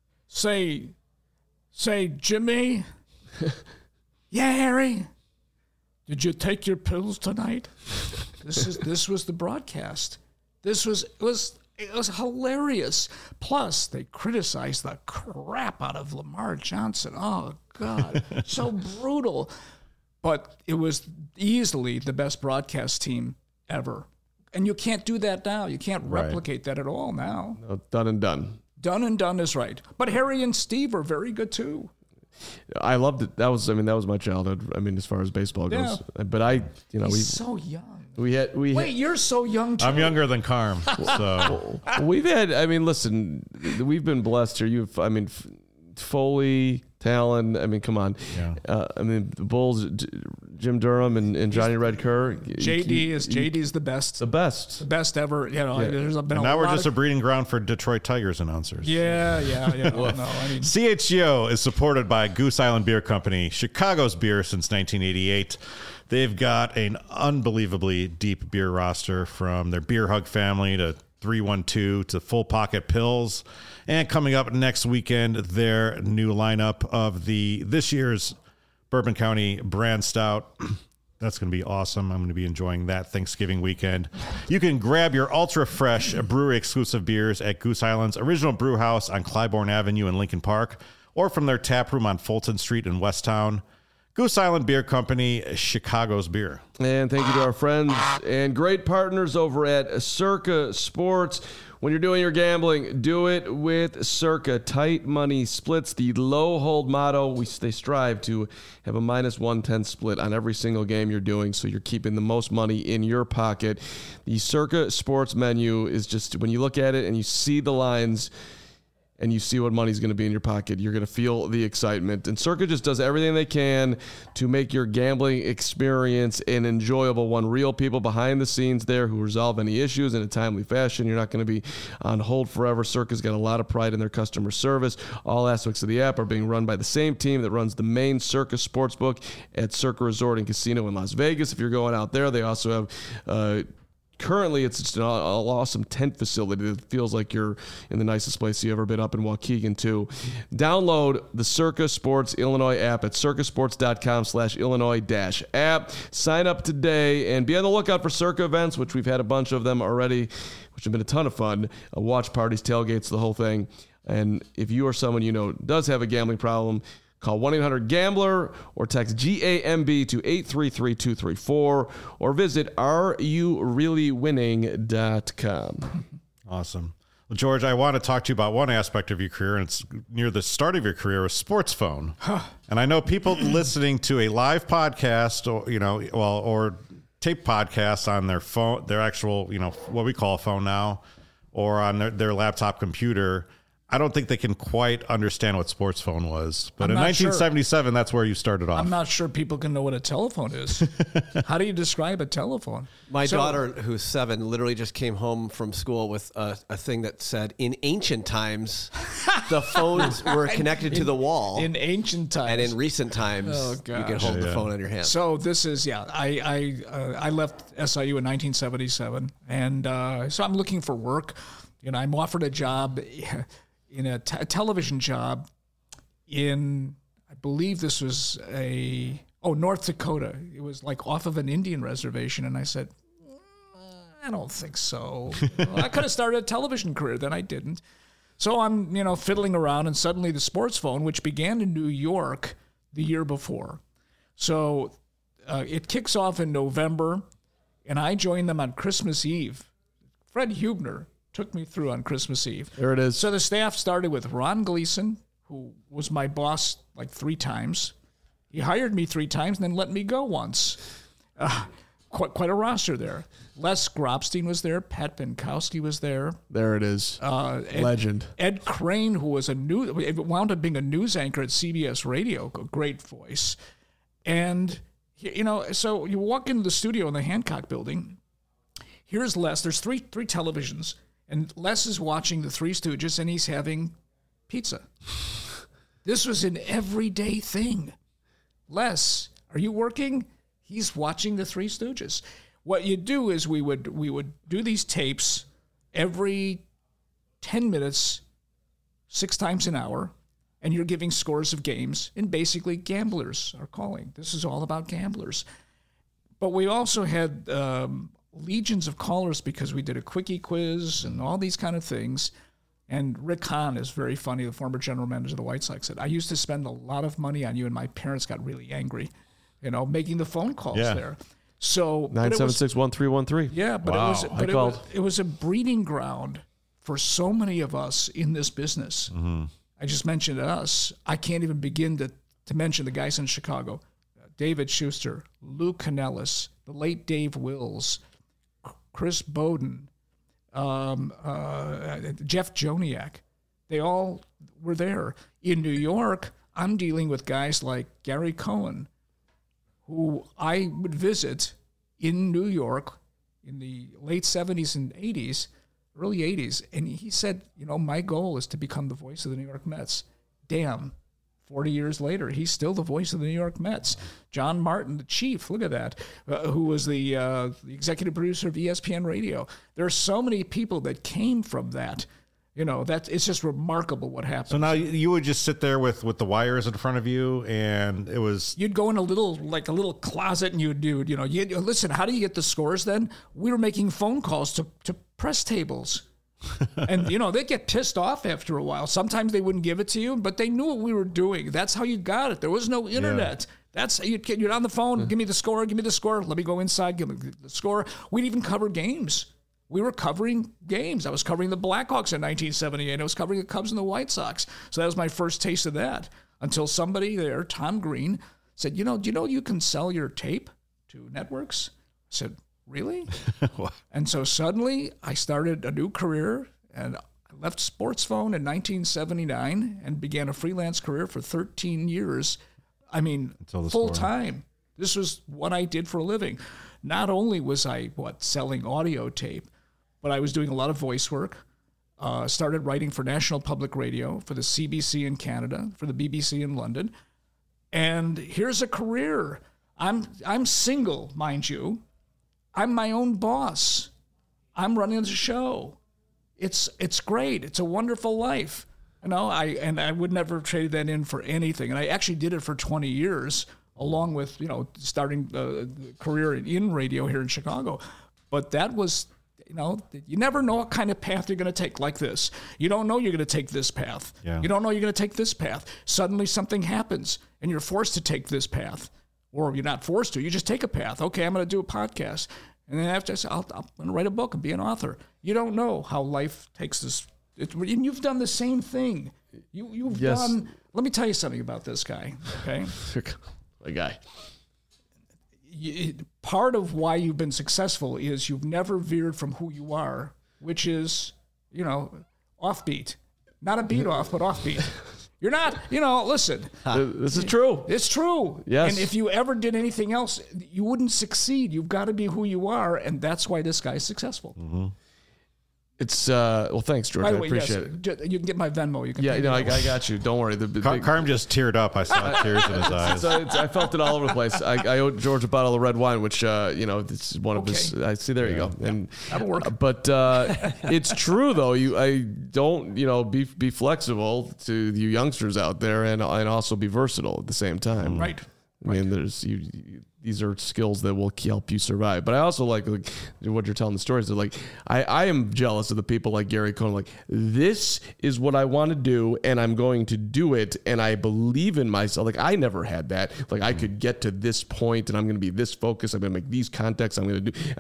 [SPEAKER 3] Say, Jimmy. "Yeah, Harry. Did you take your pills tonight?" This was the broadcast. It was hilarious. Plus, they criticized the crap out of Lamar Johnson. Oh God, so brutal. But it was easily the best broadcast team ever. And you can't do that now. You can't replicate that at all now.
[SPEAKER 2] No, done and done.
[SPEAKER 3] Done and done is right. But Harry and Steve are very good too.
[SPEAKER 2] I loved it. That was my childhood. I mean, as far as baseball goes. But
[SPEAKER 3] He's so young.
[SPEAKER 2] Wait,
[SPEAKER 3] you're so young too.
[SPEAKER 1] I'm younger than Carm, so
[SPEAKER 2] we've had. I mean, listen, we've been blessed here. Foley, Talon. I mean, come on.
[SPEAKER 1] Yeah.
[SPEAKER 2] The Bulls, Jim Durham and Johnny Red Kerr.
[SPEAKER 3] JD's the best.
[SPEAKER 2] The best.
[SPEAKER 3] The best ever. You know, there's been
[SPEAKER 1] and
[SPEAKER 3] a
[SPEAKER 1] now we're
[SPEAKER 3] lot
[SPEAKER 1] just a breeding ground for Detroit Tigers announcers.
[SPEAKER 3] Yeah. No, I mean,
[SPEAKER 1] CHGO is supported by Goose Island Beer Company, Chicago's beer since 1988. They've got an unbelievably deep beer roster, from their Beer Hug family to 312 to Full Pocket Pills. And coming up next weekend, their new lineup of this year's Bourbon County Brand Stout. That's going to be awesome. I'm going to be enjoying that Thanksgiving weekend. You can grab your ultra fresh brewery exclusive beers at Goose Island's original brew house on Clybourne Avenue in Lincoln Park, or from their tap room on Fulton Street in Westtown. Goose Island Beer Company, Chicago's beer.
[SPEAKER 2] And thank you to our friends and great partners over at Circa Sports. When you're doing your gambling, do it with Circa. Tight money splits, the low hold motto. They strive to have a minus 110 split on every single game you're doing, so you're keeping the most money in your pocket. The Circa Sports menu is just, when you look at it and you see the lines and you see what money's going to be in your pocket, you're going to feel the excitement. And Circa just does everything they can to make your gambling experience an enjoyable one. Real people behind the scenes there who resolve any issues in a timely fashion. You're not going to be on hold forever. Circa's got a lot of pride in their customer service. All aspects of the app are being run by the same team that runs the main Circa Sportsbook at Circa Resort and Casino in Las Vegas. If you're going out there, they also have currently it's just an awesome tent facility that feels like you're in the nicest place you've ever been, up in Waukegan too. Download the Circa Sports Illinois app at circasports.com/Illinois-app. Sign up today and be on the lookout for Circa events, which we've had a bunch of them already, which have been a ton of fun. Watch parties, tailgates, the whole thing. And if you or someone you know does have a gambling problem, call 1-800-GAMBLER or text GAMB to 833-234 or visit areyoureallywinning.com.
[SPEAKER 1] Awesome. Well, George, I want to talk to you about one aspect of your career, and it's near the start of your career, was Sports Phone. And I know people listening to a live podcast or tape podcasts on their phone, their actual, what we call a phone now, or on their laptop computer. I don't think they can quite understand what Sports Phone was. But in 1977, that's where you started off.
[SPEAKER 3] I'm not sure people can know what a telephone is. How do you describe a telephone?
[SPEAKER 4] My daughter, who's 7, literally just came home from school with a thing that said, in ancient times, the phones were connected to the wall.
[SPEAKER 3] In ancient times.
[SPEAKER 4] And in recent times, you can hold the phone in your hand.
[SPEAKER 3] So this is, I left SIU in 1977. And so I'm looking for work. I'm offered a job in a television job in, I believe this was North Dakota. It was like off of an Indian reservation. And I said, I don't think so. I could have started a television career, then I didn't. So I'm, fiddling around, and suddenly the Sports Phone, which began in New York the year before. So it kicks off in November, and I joined them on Christmas Eve. Fred Hubner took me through on Christmas Eve.
[SPEAKER 2] There it is.
[SPEAKER 3] So the staff started with Ron Gleason, who was my boss like 3 times. He hired me 3 times and then let me go once. Quite a roster there. Les Grobstein was there. Pat Binkowski was there.
[SPEAKER 2] There it is. Legend.
[SPEAKER 3] Ed Crane, who was wound up being a news anchor at CBS Radio, a great voice. And, so you walk into the studio in the Hancock building. Here's Les. There's three televisions. And Les is watching the Three Stooges, and he's having pizza. This was an everyday thing. Les, are you working? He's watching the Three Stooges. What you do is we would do these tapes every 10 minutes, 6 times an hour, and you're giving scores of games, and basically gamblers are calling. This is all about gamblers. But we also had legions of callers because we did a quickie quiz and all these kind of things. And Rick Hahn is very funny, the former general manager of the White Sox, said, I used to spend a lot of money on you, and my parents got really angry, making the phone calls there. So
[SPEAKER 2] 976-1313.
[SPEAKER 3] Yeah, but it was a breeding ground for so many of us in this business. Mm-hmm. I just mentioned us. I can't even begin to mention the guys in Chicago. David Schuster, Lou Canellis, the late Dave Wills, Chris Bowden, Jeff Joniak. They all were there. In New York, I'm dealing with guys like Gary Cohen, who I would visit in New York in the late 70s and 80s, early 80s. And he said, my goal is to become the voice of the New York Mets. Damn. 40 years later, he's still the voice of the New York Mets. John Martin, the chief, look at that, who was the executive producer of ESPN Radio. There are so many people that came from that. It's just remarkable what happened.
[SPEAKER 1] So now you would just sit there with the wires in front of you, and it was...
[SPEAKER 3] You'd go in a little closet, and you'd do, listen, how do you get the scores then? We were making phone calls to press tables. And, they get pissed off after a while. Sometimes they wouldn't give it to you, but they knew what we were doing. That's how you got it. There was no internet. Yeah. That's you're on the phone. Give me the score. Give me the score. Let me go inside. Give me the score. We'd even cover games. We were covering games. I was covering the Blackhawks in 1978. I was covering the Cubs and the White Sox. So that was my first taste of that until somebody there, Tom Green, said, do you know you can sell your tape to networks? I said, really? And so suddenly I started a new career, and I left Sports Phone in 1979 and began a freelance career for 13 years. I mean, full time. This was what I did for a living. Not only was I, selling audio tape, but I was doing a lot of voice work. Started writing for National Public Radio, for the CBC in Canada, for the BBC in London. And here's a career. I'm single, mind you. I'm my own boss. I'm running the show. It's great. It's a wonderful life. I would never have traded that in for anything. And I actually did it for 20 years, along with, starting a career in radio here in Chicago. But that was, you never know what kind of path you're going to take like this. You don't know you're going to take this path.
[SPEAKER 1] Yeah.
[SPEAKER 3] You don't know you're going to take this path. Suddenly something happens and you're forced to take this path. Or you're not forced to. You just take a path. Okay, I'm going to do a podcast. And then after I say, I'm going to write a book and be an author. You don't know how life takes this. And you've done the same thing. You've done. Let me tell you something about this guy. Okay,
[SPEAKER 2] a guy.
[SPEAKER 3] Part of why you've been successful is you've never veered from who you are, which is, offbeat. Not a beat off, but offbeat. You're not, listen.
[SPEAKER 2] This is true.
[SPEAKER 3] It's true.
[SPEAKER 2] Yes.
[SPEAKER 3] And if you ever did anything else, you wouldn't succeed. You've got to be who you are, and that's why this guy's successful.
[SPEAKER 2] Mm-hmm. It's well, thanks, George.
[SPEAKER 3] By the
[SPEAKER 2] I
[SPEAKER 3] way,
[SPEAKER 2] appreciate it.
[SPEAKER 3] You can get my Venmo. You can.
[SPEAKER 2] Yeah,
[SPEAKER 3] pay me.
[SPEAKER 2] I got you. Don't worry.
[SPEAKER 1] Carm just teared up. I saw tears in his eyes.
[SPEAKER 2] I felt it all over the place. I owed George a bottle of red wine, which this is one of his. I see. There you go. And
[SPEAKER 3] that'll work.
[SPEAKER 2] But it's true though. I don't be flexible to you youngsters out there, and also be versatile at the same time.
[SPEAKER 3] Right.
[SPEAKER 2] I mean, there's these are skills that will help you survive. But I also like what you're telling the stories. That I am jealous of the people like Gary Cohen. Like, this is what I want to do, and I'm going to do it, and I believe in myself. Like, I never had that. Like, I could get to this point, and I'm going to be this focused. I'm going to make these contacts. I'm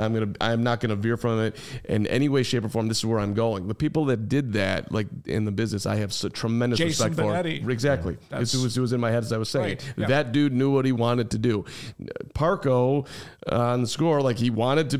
[SPEAKER 2] not going to veer from it in any way, shape, or form. This is where I'm going. The people that did that, like in the business, I have tremendous
[SPEAKER 3] Jason
[SPEAKER 2] respect
[SPEAKER 3] Benetti.
[SPEAKER 2] for. Exactly.
[SPEAKER 3] Yeah,
[SPEAKER 2] it was in my head as I was saying.
[SPEAKER 3] Right, yeah.
[SPEAKER 2] That dude knew what he wanted to do. Parco on the Score, like he wanted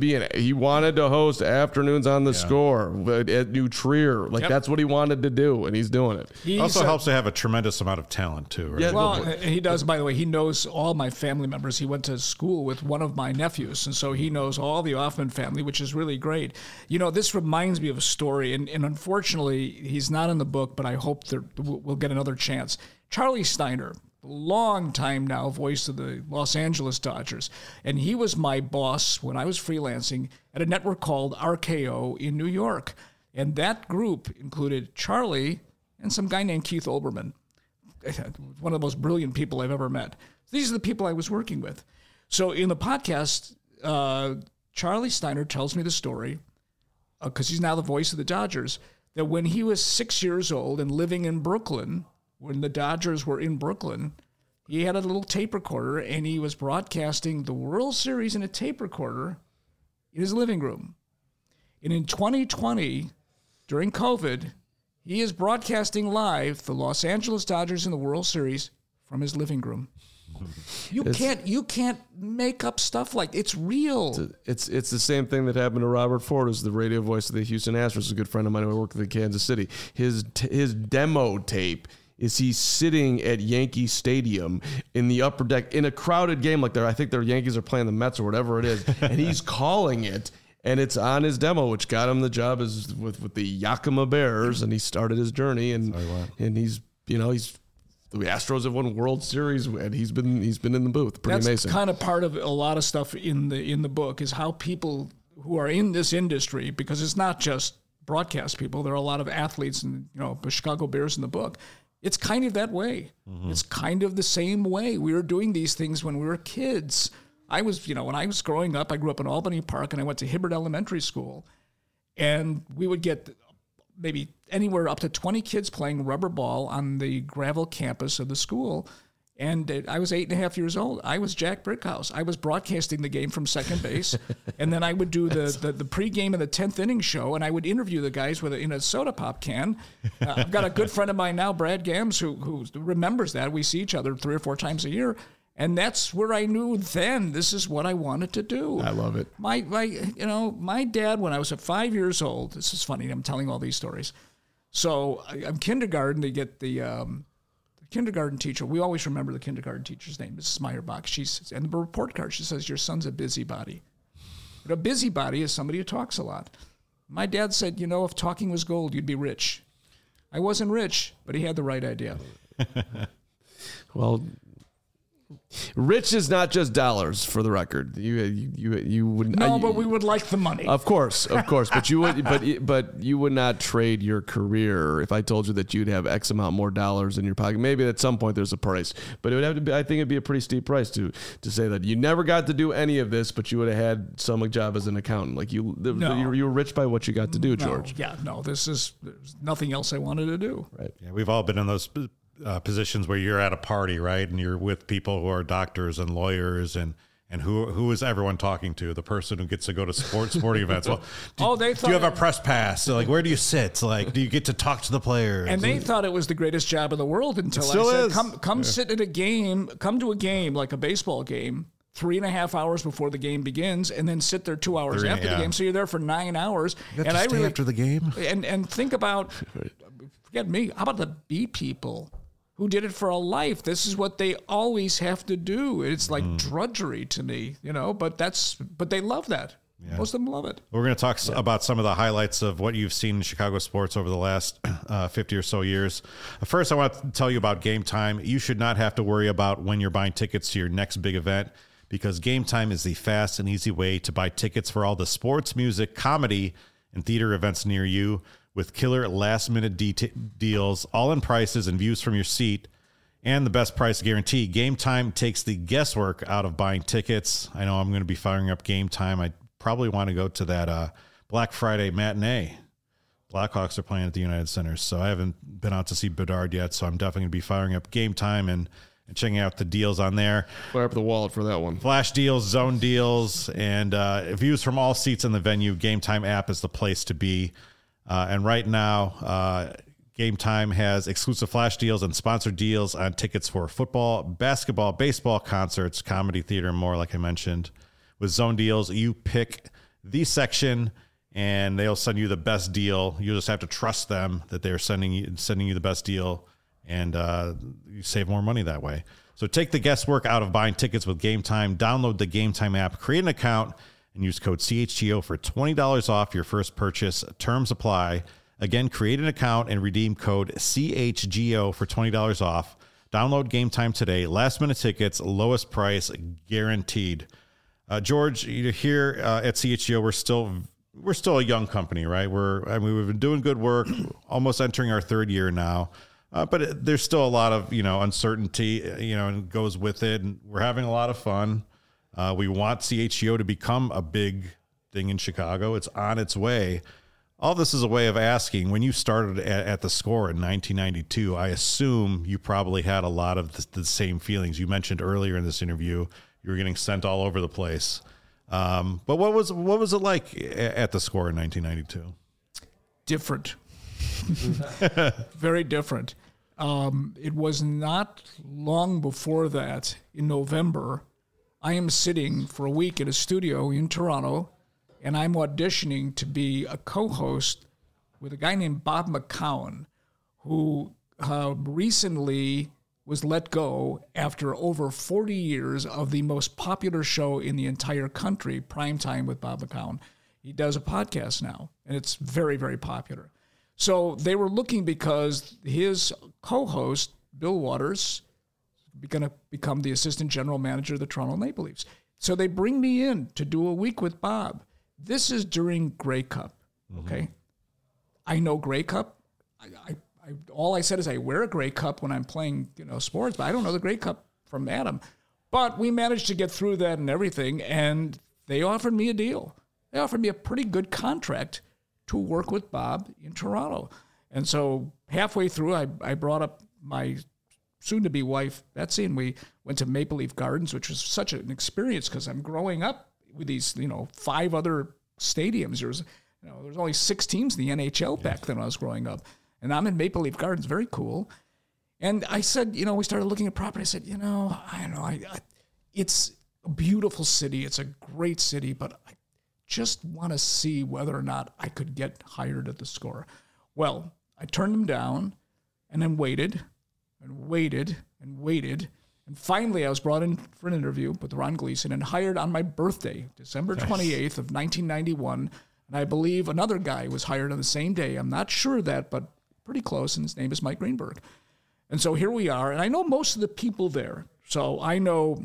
[SPEAKER 2] to host afternoons on the Score at New Trier. Like that's what he wanted to do, and he's doing it.
[SPEAKER 1] He also helps to have a tremendous amount of talent too, right?
[SPEAKER 2] Yeah,
[SPEAKER 3] well, he does. By the way, he knows all my family members. He went to school with one of my nephews, and so he knows all the Hoffman family, which is really great. This reminds me of a story, and unfortunately, he's not in the book, but I hope that we'll get another chance. Charlie Steiner, long time now voice of the Los Angeles Dodgers, and he was my boss when I was freelancing at a network called RKO in New York, and that group included Charlie and some guy named Keith Olbermann, one of the most brilliant people I've ever met. These are the people I was working with. So in the podcast, Charlie Steiner tells me the story, because he's now the voice of the Dodgers, that when he was 6 years old and living in Brooklyn, when the Dodgers were in Brooklyn, he had a little tape recorder, and he was broadcasting the World Series in a tape recorder in his living room. And in 2020, during COVID, he is broadcasting live the Los Angeles Dodgers in the World Series from his living room. You can't make up stuff like it's real.
[SPEAKER 2] It's the same thing that happened to Robert Ford, who's the radio voice of the Houston Astros, a good friend of mine who worked in Kansas City. His demo tape is he's sitting at Yankee Stadium in the upper deck in a crowded game, like I think their Yankees are playing the Mets or whatever it is, and he's calling it, and it's on his demo, which got him the job as with the Yakima Bears, and he started his journey, and he's the Astros have won World Series, and he's been in the booth. Pretty amazing.
[SPEAKER 3] That's kind of part of a lot of stuff in the book is how people who are in this industry, because it's not just broadcast people, there are a lot of athletes and the Chicago Bears in the book. It's kind of that way. Mm-hmm. It's kind of the same way. We were doing these things when we were kids. I was, when I was growing up, I grew up in Albany Park, and I went to Hibbert Elementary School, and we would get maybe anywhere up to 20 kids playing rubber ball on the gravel campus of the school. And I was 8.5 years old. I was Jack Brickhouse. I was broadcasting the game from second base. And then I would do the pregame and the 10th inning show, and I would interview the guys in a soda pop can. I've got a good friend of mine now, Brad Gams, who remembers that. We see each other 3 or 4 times a year. And that's where I knew then this is what I wanted to do.
[SPEAKER 2] I love it.
[SPEAKER 3] My dad, when I was 5 years old, this is funny, I'm telling all these stories. So I'm kindergarten, they get the kindergarten teacher. We always remember the kindergarten teacher's name, Mrs. Meyerbach. And the report card, she says, your son's a busybody. But a busybody is somebody who talks a lot. My dad said, if talking was gold, you'd be rich. I wasn't rich, but he had the right idea.
[SPEAKER 2] Well, Rich is not just dollars, for the record. You would
[SPEAKER 3] No, but we would like the money.
[SPEAKER 2] Of course, but you would, but you would not trade your career if I told you that you'd have X amount more dollars in your pocket. Maybe at some point there's a price, but it would have to be. I think it'd be a pretty steep price to say that you never got to do any of this, but you would have had some job as an accountant. Like you were rich by what you got to do, George.
[SPEAKER 3] There's nothing else I wanted to do.
[SPEAKER 2] Right.
[SPEAKER 1] Yeah, we've all been in those positions where you're at a party, right? And you're with people who are doctors and lawyers and who is everyone talking to? The person who gets to go to sporting events. Well, do you have a press pass? So, like, where do you sit? Like, do you get to talk to the players?
[SPEAKER 3] And they thought it was the greatest job in the world until I said, come sit at a game, come to a game, like a baseball game, 3.5 hours before the game begins, and then sit there 2 hours after the game. So you're there for 9 hours.
[SPEAKER 1] You have to stay after the game.
[SPEAKER 3] And think about, forget me, how about the B people who did it for a life? This is what they always have to do. It's like drudgery to me, but they love that. Yeah. Most of them love it.
[SPEAKER 1] We're going to talk about some of the highlights of what you've seen in Chicago sports over the last 50 or so years. First, I want to tell you about Game Time. You should not have to worry about when you're buying tickets to your next big event, because Game Time is the fast and easy way to buy tickets for all the sports, music, comedy, and theater events near you, with killer last-minute deals, all-in prices and views from your seat, and the best price guarantee. Game Time takes the guesswork out of buying tickets. I know I'm going to be firing up Game Time. I probably want to go to that Black Friday matinee. Blackhawks are playing at the United Center, so I haven't been out to see Bedard yet, so I'm definitely going to be firing up Game Time and checking out the deals on there.
[SPEAKER 2] Fire up the wallet for that one.
[SPEAKER 1] Flash deals, zone deals, and views from all seats in the venue. Game Time app is the place to be. And right now, Game Time has exclusive flash deals and sponsored deals on tickets for football, basketball, baseball, concerts, comedy, theater, and more, like I mentioned. With zone deals, you pick the section, and they'll send you the best deal. You just have to trust them that they're sending you the best deal, and you save more money that way. So take the guesswork out of buying tickets with Game Time. Download the Game Time app, create an account, and use code CHGO for $20 off your first purchase. Terms apply. Again, create an account and redeem code CHGO for $20 off. Download Game Time today. Last-minute tickets, lowest price guaranteed. George, here at CHGO, we're still a young company, right? We've been doing good work, almost entering our third year now. But there's still a lot of uncertainty, and goes with it. And we're having a lot of fun. We want CHGO to become a big thing in Chicago. It's on its way. All this is a way of asking, when you started at the Score in 1992, I assume you probably had a lot of the same feelings. You mentioned earlier in this interview you were getting sent all over the place. But what was it like at the Score in 1992?
[SPEAKER 3] Different. Very different. It was not long before that, in November, I am sitting for a week in a studio in Toronto, and I'm auditioning to be a co-host with a guy named Bob McCown, who recently was let go after over 40 years of the most popular show in the entire country, Primetime with Bob McCown. He does a podcast now, and it's very, very popular. So they were looking because his co-host, Bill Waters, going to become the assistant general manager of the Toronto Maple Leafs. So they bring me in to do a week with Bob. This is during Grey Cup, okay? Mm-hmm. I know Grey Cup. All I said is I wear a Grey Cup when I'm playing, sports, but I don't know the Grey Cup from Adam. But we managed to get through that and everything, and they offered me a deal. They offered me a pretty good contract to work with Bob in Toronto. And so halfway through, I brought up my soon-to-be wife, Betsy, and we went to Maple Leaf Gardens, which was such an experience because I'm growing up with these, 5 other stadiums. There's only 6 teams in the NHL back then when I was growing up. And I'm in Maple Leaf Gardens, very cool. And I said, we started looking at property. I said, I don't know, it's a beautiful city. It's a great city, but I just want to see whether or not I could get hired at the Score. Well, I turned them down and then waited and waited and waited. And finally, I was brought in for an interview with Ron Gleason and hired on my birthday, December 28th of 1991. And I believe another guy was hired on the same day. I'm not sure of that, but pretty close, and his name is Mike Greenberg. And so here we are. And I know most of the people there. So I know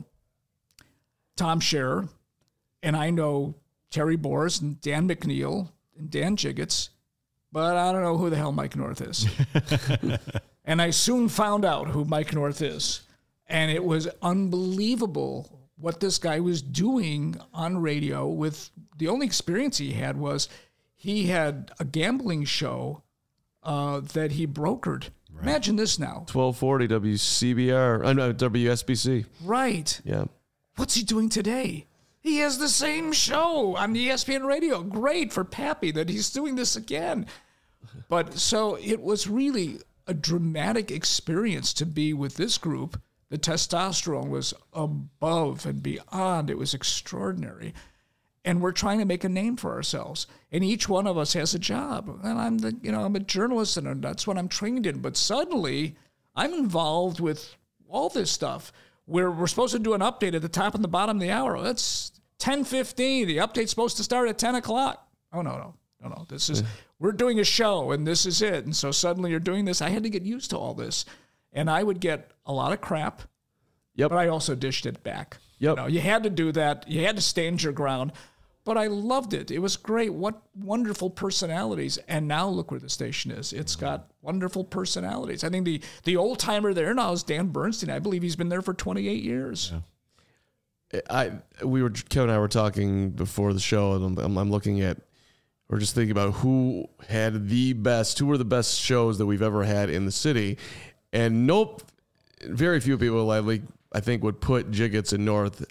[SPEAKER 3] Tom Scherer, and I know Terry Boers and Dan McNeil and Dan Jiggets, but I don't know who the hell Mike North is. And I soon found out who Mike North is. And it was unbelievable what this guy was doing on radio. With the only experience he had was he had a gambling show that he brokered. Right. Imagine this now.
[SPEAKER 2] 1240 WCBR, WSBC.
[SPEAKER 3] Right.
[SPEAKER 2] Yeah.
[SPEAKER 3] What's he doing today? He has the same show on the ESPN radio. Great for Pappy that he's doing this again. But so it was really a dramatic experience to be with this group. The testosterone was above and beyond. It was extraordinary. And we're trying to make a name for ourselves. And each one of us has a job. And I'm a journalist, and that's what I'm trained in. But suddenly, I'm involved with all this stuff. We're supposed to do an update at the top and the bottom of the hour. That's 10:15. The update's supposed to start at 10 o'clock. Oh, no. This is, we're doing a show, and this is it. And so suddenly you're doing this. I had to get used to all this. And I would get a lot of crap.
[SPEAKER 2] Yep.
[SPEAKER 3] But I also dished it back.
[SPEAKER 2] Yep.
[SPEAKER 3] You had to do that. You had to stand your ground. But I loved it. It was great. What wonderful personalities. And now look where the station is. It's got wonderful personalities. I think the old timer there now is Dan Bernstein. I believe he's been there for 28 years.
[SPEAKER 2] Yeah. Kevin and I were talking before the show, and I'm looking at, we're just thinking about who were the best shows that we've ever had in the city. And very few people, I think, would put Jiggets and North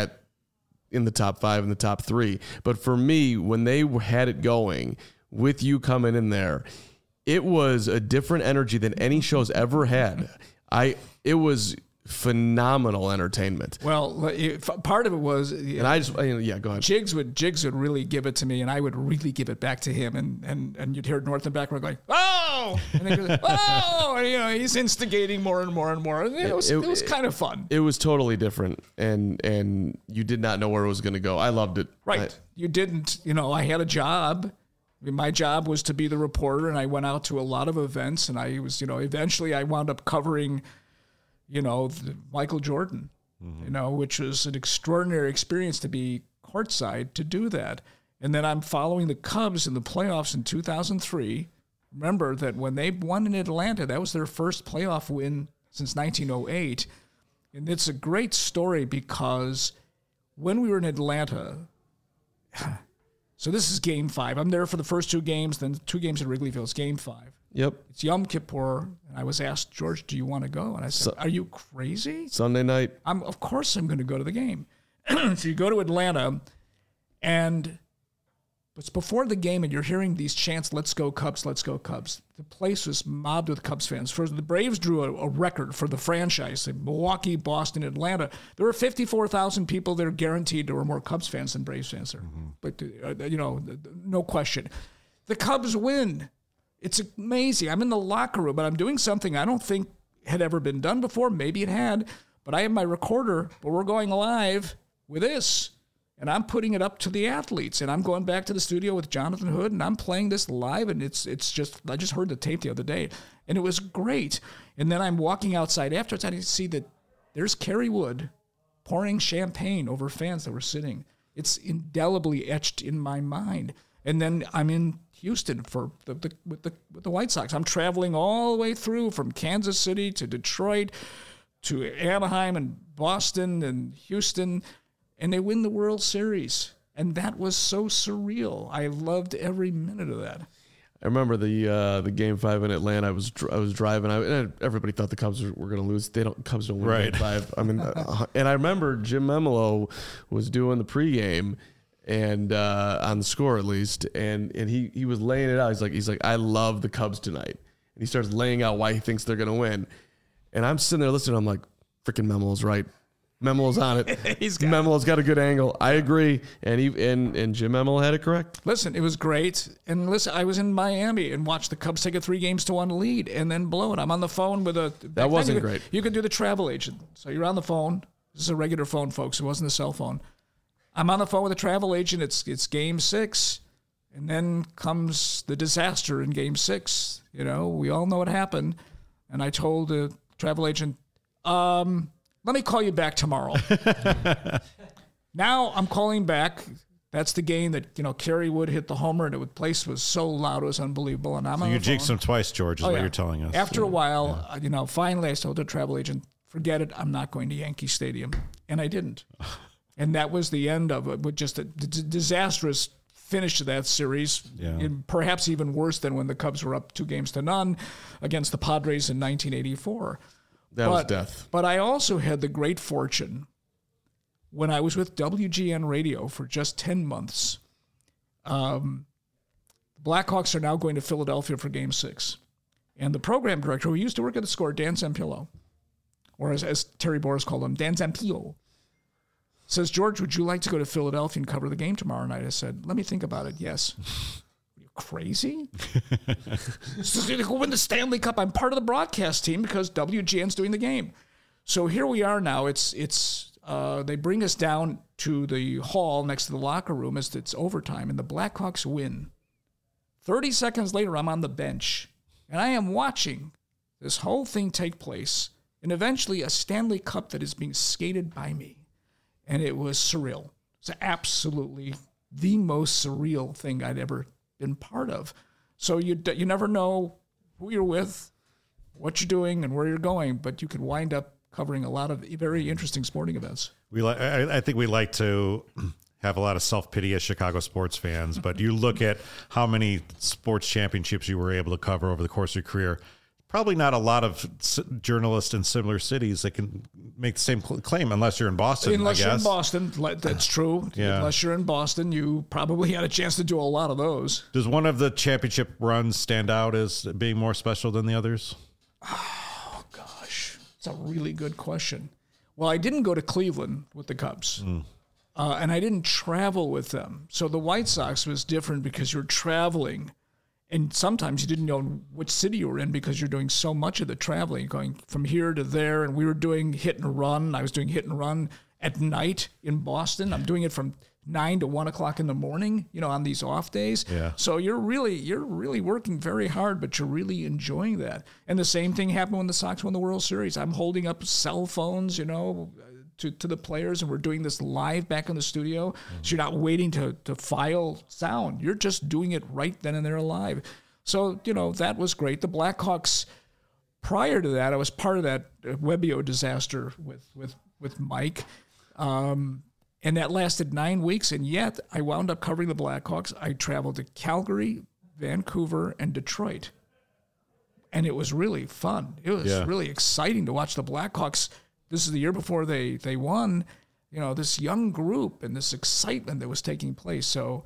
[SPEAKER 2] in the top 5 and the top 3. But for me, when they had it going with you coming in there, it was a different energy than any show's ever had. It was phenomenal entertainment.
[SPEAKER 3] Well, part of it was,
[SPEAKER 2] and I just, go ahead.
[SPEAKER 3] Jiggs would really give it to me, and I would really give it back to him, and you'd hear North and background going, oh, and then goes, oh, and, he's instigating more and more and more. And it was kind of fun.
[SPEAKER 2] It was totally different, and you did not know where it was going to go. I loved it.
[SPEAKER 3] Right. You didn't, I had a job. My job was to be the reporter, and I went out to a lot of events, and I was, eventually I wound up covering Michael Jordan, which was an extraordinary experience to be courtside to do that. And then I'm following the Cubs in the playoffs in 2003. Remember that when they won in Atlanta, that was their first playoff win since 1908. And it's a great story because when we were in Atlanta, so this is Game 5. I'm there for the first 2 games, then 2 games at Wrigley Field. It's Game 5.
[SPEAKER 2] Yep.
[SPEAKER 3] It's Yom Kippur, and I was asked, George, do you want to go? And I said, are you crazy?
[SPEAKER 2] Sunday night.
[SPEAKER 3] Of course I'm going to go to the game. So you go to Atlanta, and it's before the game, and you're hearing these chants, let's go Cubs, let's go Cubs. The place was mobbed with Cubs fans. First, the Braves drew a record for the franchise. In Milwaukee, Boston, Atlanta. There were 54,000 people there guaranteed there were more Cubs fans than Braves fans there. Mm-hmm. But, no question. The Cubs win. It's amazing. I'm in the locker room, but I'm doing something I don't think had ever been done before. Maybe it had, but I have my recorder, but we're going live with this, and I'm putting it up to the athletes, and I'm going back to the studio with Jonathan Hood, and I'm playing this live, and it's just, I just heard the tape the other day, and it was great. And then I'm walking outside afterwards, and I see that there's Kerry Wood pouring champagne over fans that were sitting. It's indelibly etched in my mind. And then I'm in Houston with the White Sox. I'm traveling all the way through from Kansas City to Detroit to Anaheim and Boston and Houston, and they win the World Series. And that was so surreal. I loved every minute of that.
[SPEAKER 2] I remember the Game 5 in Atlanta. I was driving. And everybody thought the Cubs were going to lose. Cubs don't win Game 5. I mean, and I remember Jim Memolo was doing the pregame. And on the score at least, and he was laying it out. He's like, I love the Cubs tonight, and he starts laying out why he thinks they're gonna win. And I'm sitting there listening. I'm like, freaking Memolo's right. Memolo's on it. Memolo's got a good angle. I agree, and Jim Memolo had it correct.
[SPEAKER 3] Listen, it was great. And listen, I was in Miami and watched the Cubs take a 3-1 lead and then blow it. I'm on the phone with
[SPEAKER 2] that wasn't great.
[SPEAKER 3] You could do the travel agent, so you're on the phone. This is a regular phone, folks. It wasn't a cell phone. I'm on the phone with a travel agent. It's Game 6, and then comes the disaster in Game 6. We all know what happened. And I told the travel agent, let me call you back tomorrow. Now I'm calling back. That's the game that, Kerry Wood hit the homer, and the place was so loud, it was unbelievable. And I'm on
[SPEAKER 1] You
[SPEAKER 3] the
[SPEAKER 1] jinxed
[SPEAKER 3] phone.
[SPEAKER 1] him twice, George, is what you're telling us.
[SPEAKER 3] After a while, finally I told the travel agent, forget it, I'm not going to Yankee Stadium. And I didn't. And that was the end of it, with just a disastrous finish to that series, and perhaps even worse than when the Cubs were up 2-0 against the Padres in 1984.
[SPEAKER 2] That was death.
[SPEAKER 3] But I also had the great fortune, when I was with WGN Radio for just 10 months, the Blackhawks are now going to Philadelphia for Game 6. And the program director, who used to work at the Score, Dan Zampillo, or as Terry Boris called him, Dan Zampillo, says, George, would you like to go to Philadelphia and cover the game tomorrow night? I said, let me think about it. Yes. Are you crazy? So to go win the Stanley Cup. I'm part of the broadcast team because WGN's doing the game. So here we are now. They bring us down to the hall next to the locker room as it's overtime, and the Blackhawks win. 30 seconds later, I'm on the bench, and I am watching this whole thing take place, and eventually a Stanley Cup that is being skated by me. And it was surreal. It's absolutely the most surreal thing I'd ever been part of. So you never know who you're with, what you're doing, and where you're going, but you could wind up covering a lot of very interesting sporting events.
[SPEAKER 1] I think we like to have a lot of self-pity as Chicago sports fans, but you look at how many sports championships you were able to cover over the course of your career. Probably not a lot of journalists in similar cities that can make the same claim unless you're in Boston,
[SPEAKER 3] Unless
[SPEAKER 1] I
[SPEAKER 3] you're in
[SPEAKER 1] guess.
[SPEAKER 3] Boston, that's true.
[SPEAKER 1] Yeah.
[SPEAKER 3] Unless you're in Boston, you probably had a chance to do a lot of those.
[SPEAKER 1] Does one of the championship runs stand out as being more special than the others?
[SPEAKER 3] Oh, gosh. It's a really good question. Well, I didn't go to Cleveland with the Cubs, and I didn't travel with them. So the White Sox was different because you're traveling, and sometimes you didn't know which city you were in because you're doing so much of the traveling, going from here to there, and we were doing hit and run. I was doing hit and run at night in Boston. I'm doing it from 9 to 1 o'clock in the morning, on these off days.
[SPEAKER 1] Yeah.
[SPEAKER 3] So you're really working very hard, but you're really enjoying that. And the same thing happened when the Sox won the World Series. I'm holding up cell phones, to the players, and we're doing this live back in the studio. So you're not waiting to file sound. You're just doing it right then and there live. So, that was great. The Blackhawks, prior to that, I was part of that Webbio disaster with Mike. And that lasted 9 weeks, and yet I wound up covering the Blackhawks. I traveled to Calgary, Vancouver, and Detroit. And it was really fun. It was really exciting to watch the Blackhawks. This is the year before they won, this young group and this excitement that was taking place. So,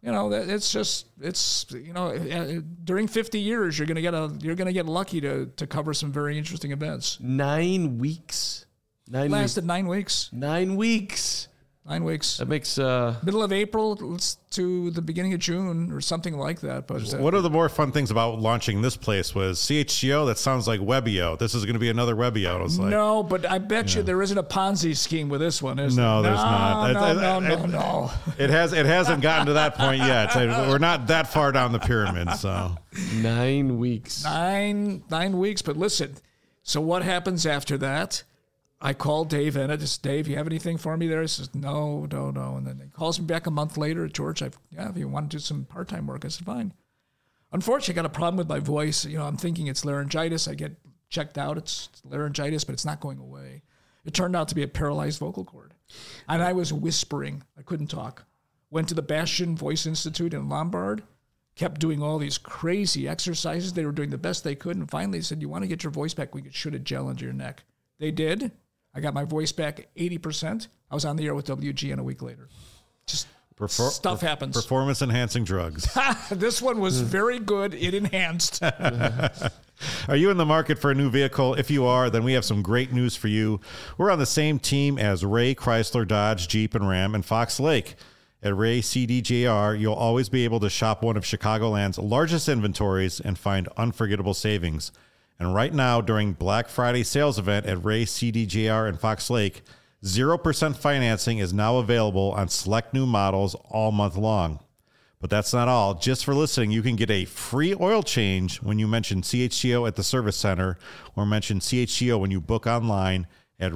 [SPEAKER 3] during 50 years, you're going to get lucky to cover some very interesting events.
[SPEAKER 2] 9 weeks.
[SPEAKER 3] Lasted 9 weeks.
[SPEAKER 2] 9 weeks.
[SPEAKER 3] 9 weeks.
[SPEAKER 2] That makes
[SPEAKER 3] Middle of April to the beginning of June or something like that. But
[SPEAKER 1] One of the more fun things about launching this place was CHGO. That sounds like Webbio. This is going to be another Webbio. It was like,
[SPEAKER 3] no, but I bet you there isn't a Ponzi scheme with this one, is
[SPEAKER 1] No,
[SPEAKER 3] there?
[SPEAKER 1] there's not.
[SPEAKER 3] No.
[SPEAKER 1] it hasn't gotten to that point yet. We're not that far down the pyramid. So
[SPEAKER 2] 9 weeks.
[SPEAKER 3] 9 weeks. But listen, so what happens after that? I called Dave and I just, Dave, you have anything for me there? He says, no. And then he calls me back a month later. George, if you want to do some part-time work, I said, fine. Unfortunately, I got a problem with my voice. I'm thinking it's laryngitis. I get checked out. It's laryngitis, but it's not going away. It turned out to be a paralyzed vocal cord. And I was whispering. I couldn't talk. Went to the Bastion Voice Institute in Lombard, kept doing all these crazy exercises. They were doing the best they could. And finally said, you want to get your voice back? We could shoot a gel into your neck. They did. I got my voice back 80%. I was on the air with WGN a week later. Just stuff happens.
[SPEAKER 1] Performance-enhancing drugs.
[SPEAKER 3] This one was very good. It enhanced.
[SPEAKER 1] Are you in the market for a new vehicle? If you are, then we have some great news for you. We're on the same team as Ray Chrysler, Dodge, Jeep, and Ram, and Fox Lake. At Ray CDJR, you'll always be able to shop one of Chicagoland's largest inventories and find unforgettable savings. And right now, during Black Friday sales event at Ray CDJR and Fox Lake, 0% financing is now available on select new models all month long. But that's not all. Just for listening, you can get a free oil change when you mention CHGO at the service center or mention CHGO when you book online at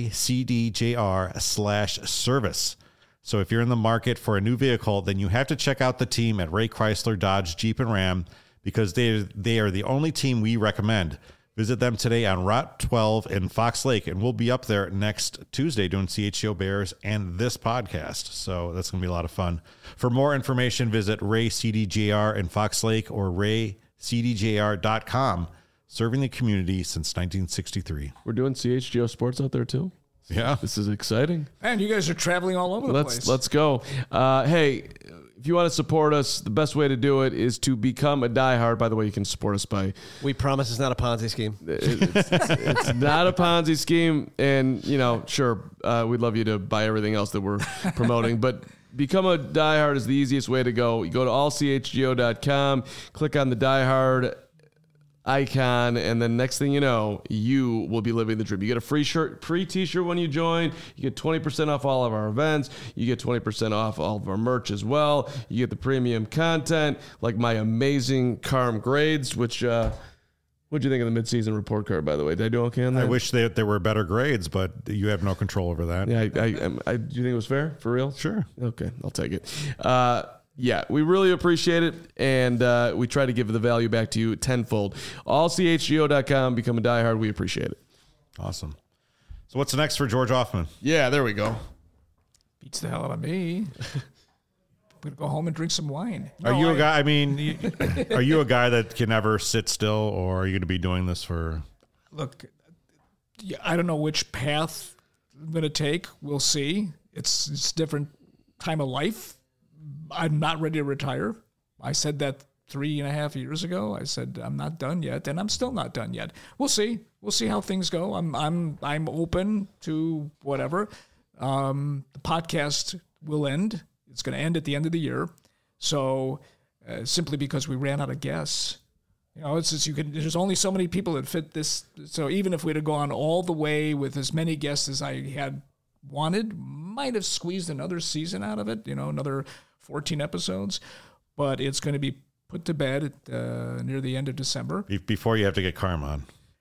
[SPEAKER 1] raycdjr/service. So if you're in the market for a new vehicle, then you have to check out the team at Ray Chrysler, Dodge, Jeep, and Ram, because they are the only team we recommend. Visit them today on Route 12 in Fox Lake, and we'll be up there next Tuesday doing CHGO Bears and this podcast. So that's going to be a lot of fun. For more information, visit Ray CDJR in Fox Lake or raycdjr.com. Serving the community since 1963.
[SPEAKER 2] We're doing CHGO Sports out there too.
[SPEAKER 1] Yeah.
[SPEAKER 2] This is exciting.
[SPEAKER 3] Man, you guys are traveling all over the place.
[SPEAKER 2] Let's go. Hey, if you want to support us, the best way to do it is to become a diehard. By the way, you can support us by...
[SPEAKER 4] We promise it's not a Ponzi scheme.
[SPEAKER 2] It's not a Ponzi scheme. And, sure, we'd love you to buy everything else that we're promoting. But become a diehard is the easiest way to go. You go to allchgo.com, click on the diehard icon, and then next thing you know, you will be living the dream. You get a free t-shirt when you join. You get 20% off all of our events. You get 20% off all of our merch as well. You get the premium content, like my amazing Carm grades, which what'd you think of the midseason report card, by the way? Did I do okay on that?
[SPEAKER 1] I wish there were better grades, but you have no control over that.
[SPEAKER 2] Yeah, do you think it was fair? For real?
[SPEAKER 1] Sure.
[SPEAKER 2] Okay, I'll take it. Yeah, we really appreciate it, and we try to give the value back to you tenfold. AllCHGO.com, become a diehard. We appreciate it.
[SPEAKER 1] Awesome. So what's next for George Hoffman?
[SPEAKER 2] Yeah, there we go.
[SPEAKER 3] Beats the hell out of me. I'm going to go home and drink some wine.
[SPEAKER 1] Are you a guy, are you a guy that can never sit still, or are you going to be doing this for...
[SPEAKER 3] Look, I don't know which path I'm going to take. We'll see. It's different time of life. I'm not ready to retire. I said that 3.5 years ago. I said I'm not done yet, and I'm still not done yet. We'll see. We'll see how things go. I'm open to whatever. The podcast will end. It's going to end at the end of the year. So simply because we ran out of guests, it's just there's only so many people that fit this. So even if we'd have gone all the way with as many guests as I had wanted, might have squeezed another season out of it. Another 14 episodes, but it's going to be put to bed near the end of December.
[SPEAKER 1] Before you have to get Carm on.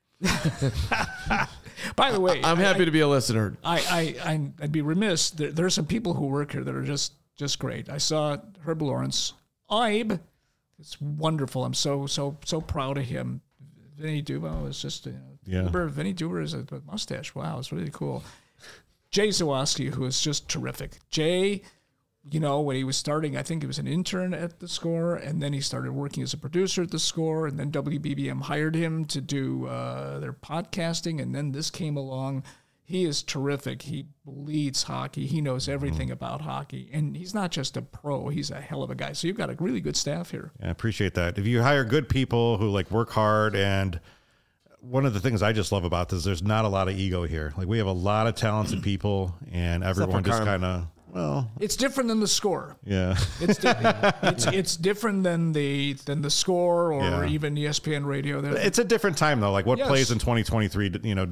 [SPEAKER 3] By the way,
[SPEAKER 2] I'm happy to be a listener.
[SPEAKER 3] I'd be remiss. There are some people who work here that are just great. I saw Herb Lawrence. Ibe, it's wonderful. I'm so proud of him. Vinny Dubo is just, Vinny Duber is a mustache. Wow, it's really cool. Jay Zawoski, who is just terrific. Jay, when he was starting, I think he was an intern at The Score, and then he started working as a producer at The Score, and then WBBM hired him to do their podcasting, and then this came along. He is terrific. He bleeds hockey. He knows everything about hockey, and he's not just a pro. He's a hell of a guy. So you've got a really good staff here.
[SPEAKER 1] Yeah, I appreciate that. If you hire good people who work hard, and one of the things I just love about this, there's not a lot of ego here. We have a lot of talented people, and everyone just kind of... Well,
[SPEAKER 3] it's different than The Score.
[SPEAKER 1] Yeah,
[SPEAKER 3] it's different than the Score or even ESPN Radio.
[SPEAKER 1] It's a different time though. What plays in 2023,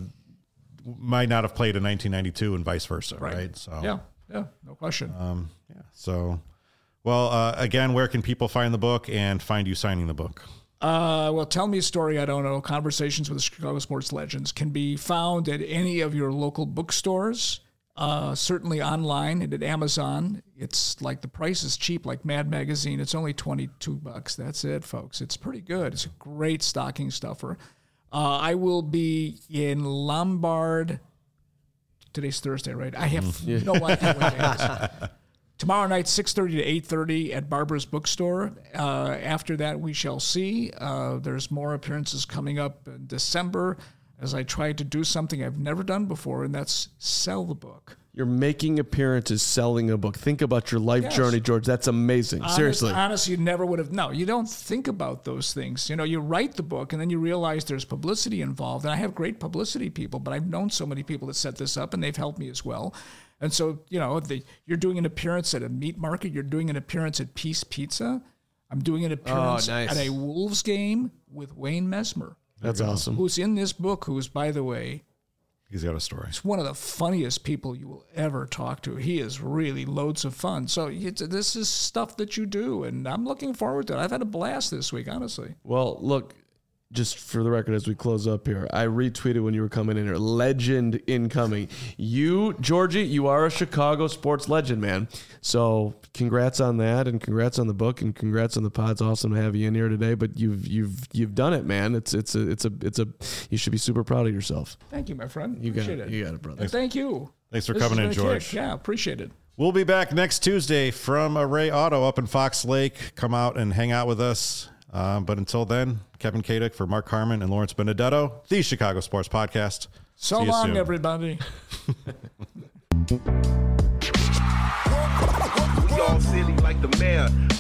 [SPEAKER 1] might not have played in 1992, and vice versa, right? So
[SPEAKER 3] yeah, no question.
[SPEAKER 1] So, well, again, where can people find the book and find you signing the book?
[SPEAKER 3] Well, Tell Me a Story, I Don't Know, Conversations with the Chicago Sports Legends can be found at any of your local bookstores. Certainly online and at Amazon. It's the price is cheap, like Mad Magazine. It's only $22. That's it, folks. It's pretty good. It's a great stocking stuffer. I will be in Lombard. Today's Thursday, right? I have no idea what day it is. Tomorrow night, 6:30 to 8:30 at Barbara's Bookstore. After that, we shall see. There's more appearances coming up in December, as I tried to do something I've never done before, and that's sell the book.
[SPEAKER 2] You're making appearances selling a book. Think about your life journey, George. That's amazing. Seriously.
[SPEAKER 3] Honestly, you never would have. No, you don't think about those things. You write the book, and then you realize there's publicity involved. And I have great publicity people, but I've known so many people that set this up, and they've helped me as well. And so, you're doing an appearance at a meat market. You're doing an appearance at Peace Pizza. I'm doing an appearance at a Wolves game with Wayne Messmer.
[SPEAKER 2] That's awesome.
[SPEAKER 3] Who's in this book, who's, by the way...
[SPEAKER 1] He's got a story.
[SPEAKER 3] He's one of the funniest people you will ever talk to. He is really loads of fun. So this is stuff that you do, and I'm looking forward to it. I've had a blast this week, honestly.
[SPEAKER 2] Well, look, just for the record, as we close up here, I retweeted when you were coming in here. Legend incoming. You, Georgie, you are a Chicago sports legend, man. So congrats on that, and congrats on the book, and congrats on the pod. It's awesome to have you in here today. But you've done it, man. It's a you should be super proud of yourself.
[SPEAKER 3] Thank you, my friend.
[SPEAKER 2] You got
[SPEAKER 3] Appreciate
[SPEAKER 2] it.
[SPEAKER 3] it.
[SPEAKER 2] You got it, brother.
[SPEAKER 3] And thank you.
[SPEAKER 1] Thanks for
[SPEAKER 3] This
[SPEAKER 1] coming
[SPEAKER 3] has
[SPEAKER 1] in,
[SPEAKER 3] been a
[SPEAKER 1] George.
[SPEAKER 3] kick. Yeah, appreciate it.
[SPEAKER 1] We'll be back next Tuesday from Array Auto up in Fox Lake. Come out and hang out with us. But until then, Kevin Kaduk for Mark Carman and Lawrence Benedetto, the Chicago Sports Podcast.
[SPEAKER 3] So
[SPEAKER 1] See you
[SPEAKER 3] long,
[SPEAKER 1] soon.
[SPEAKER 3] everybody.
[SPEAKER 5] We all silly like the mayor.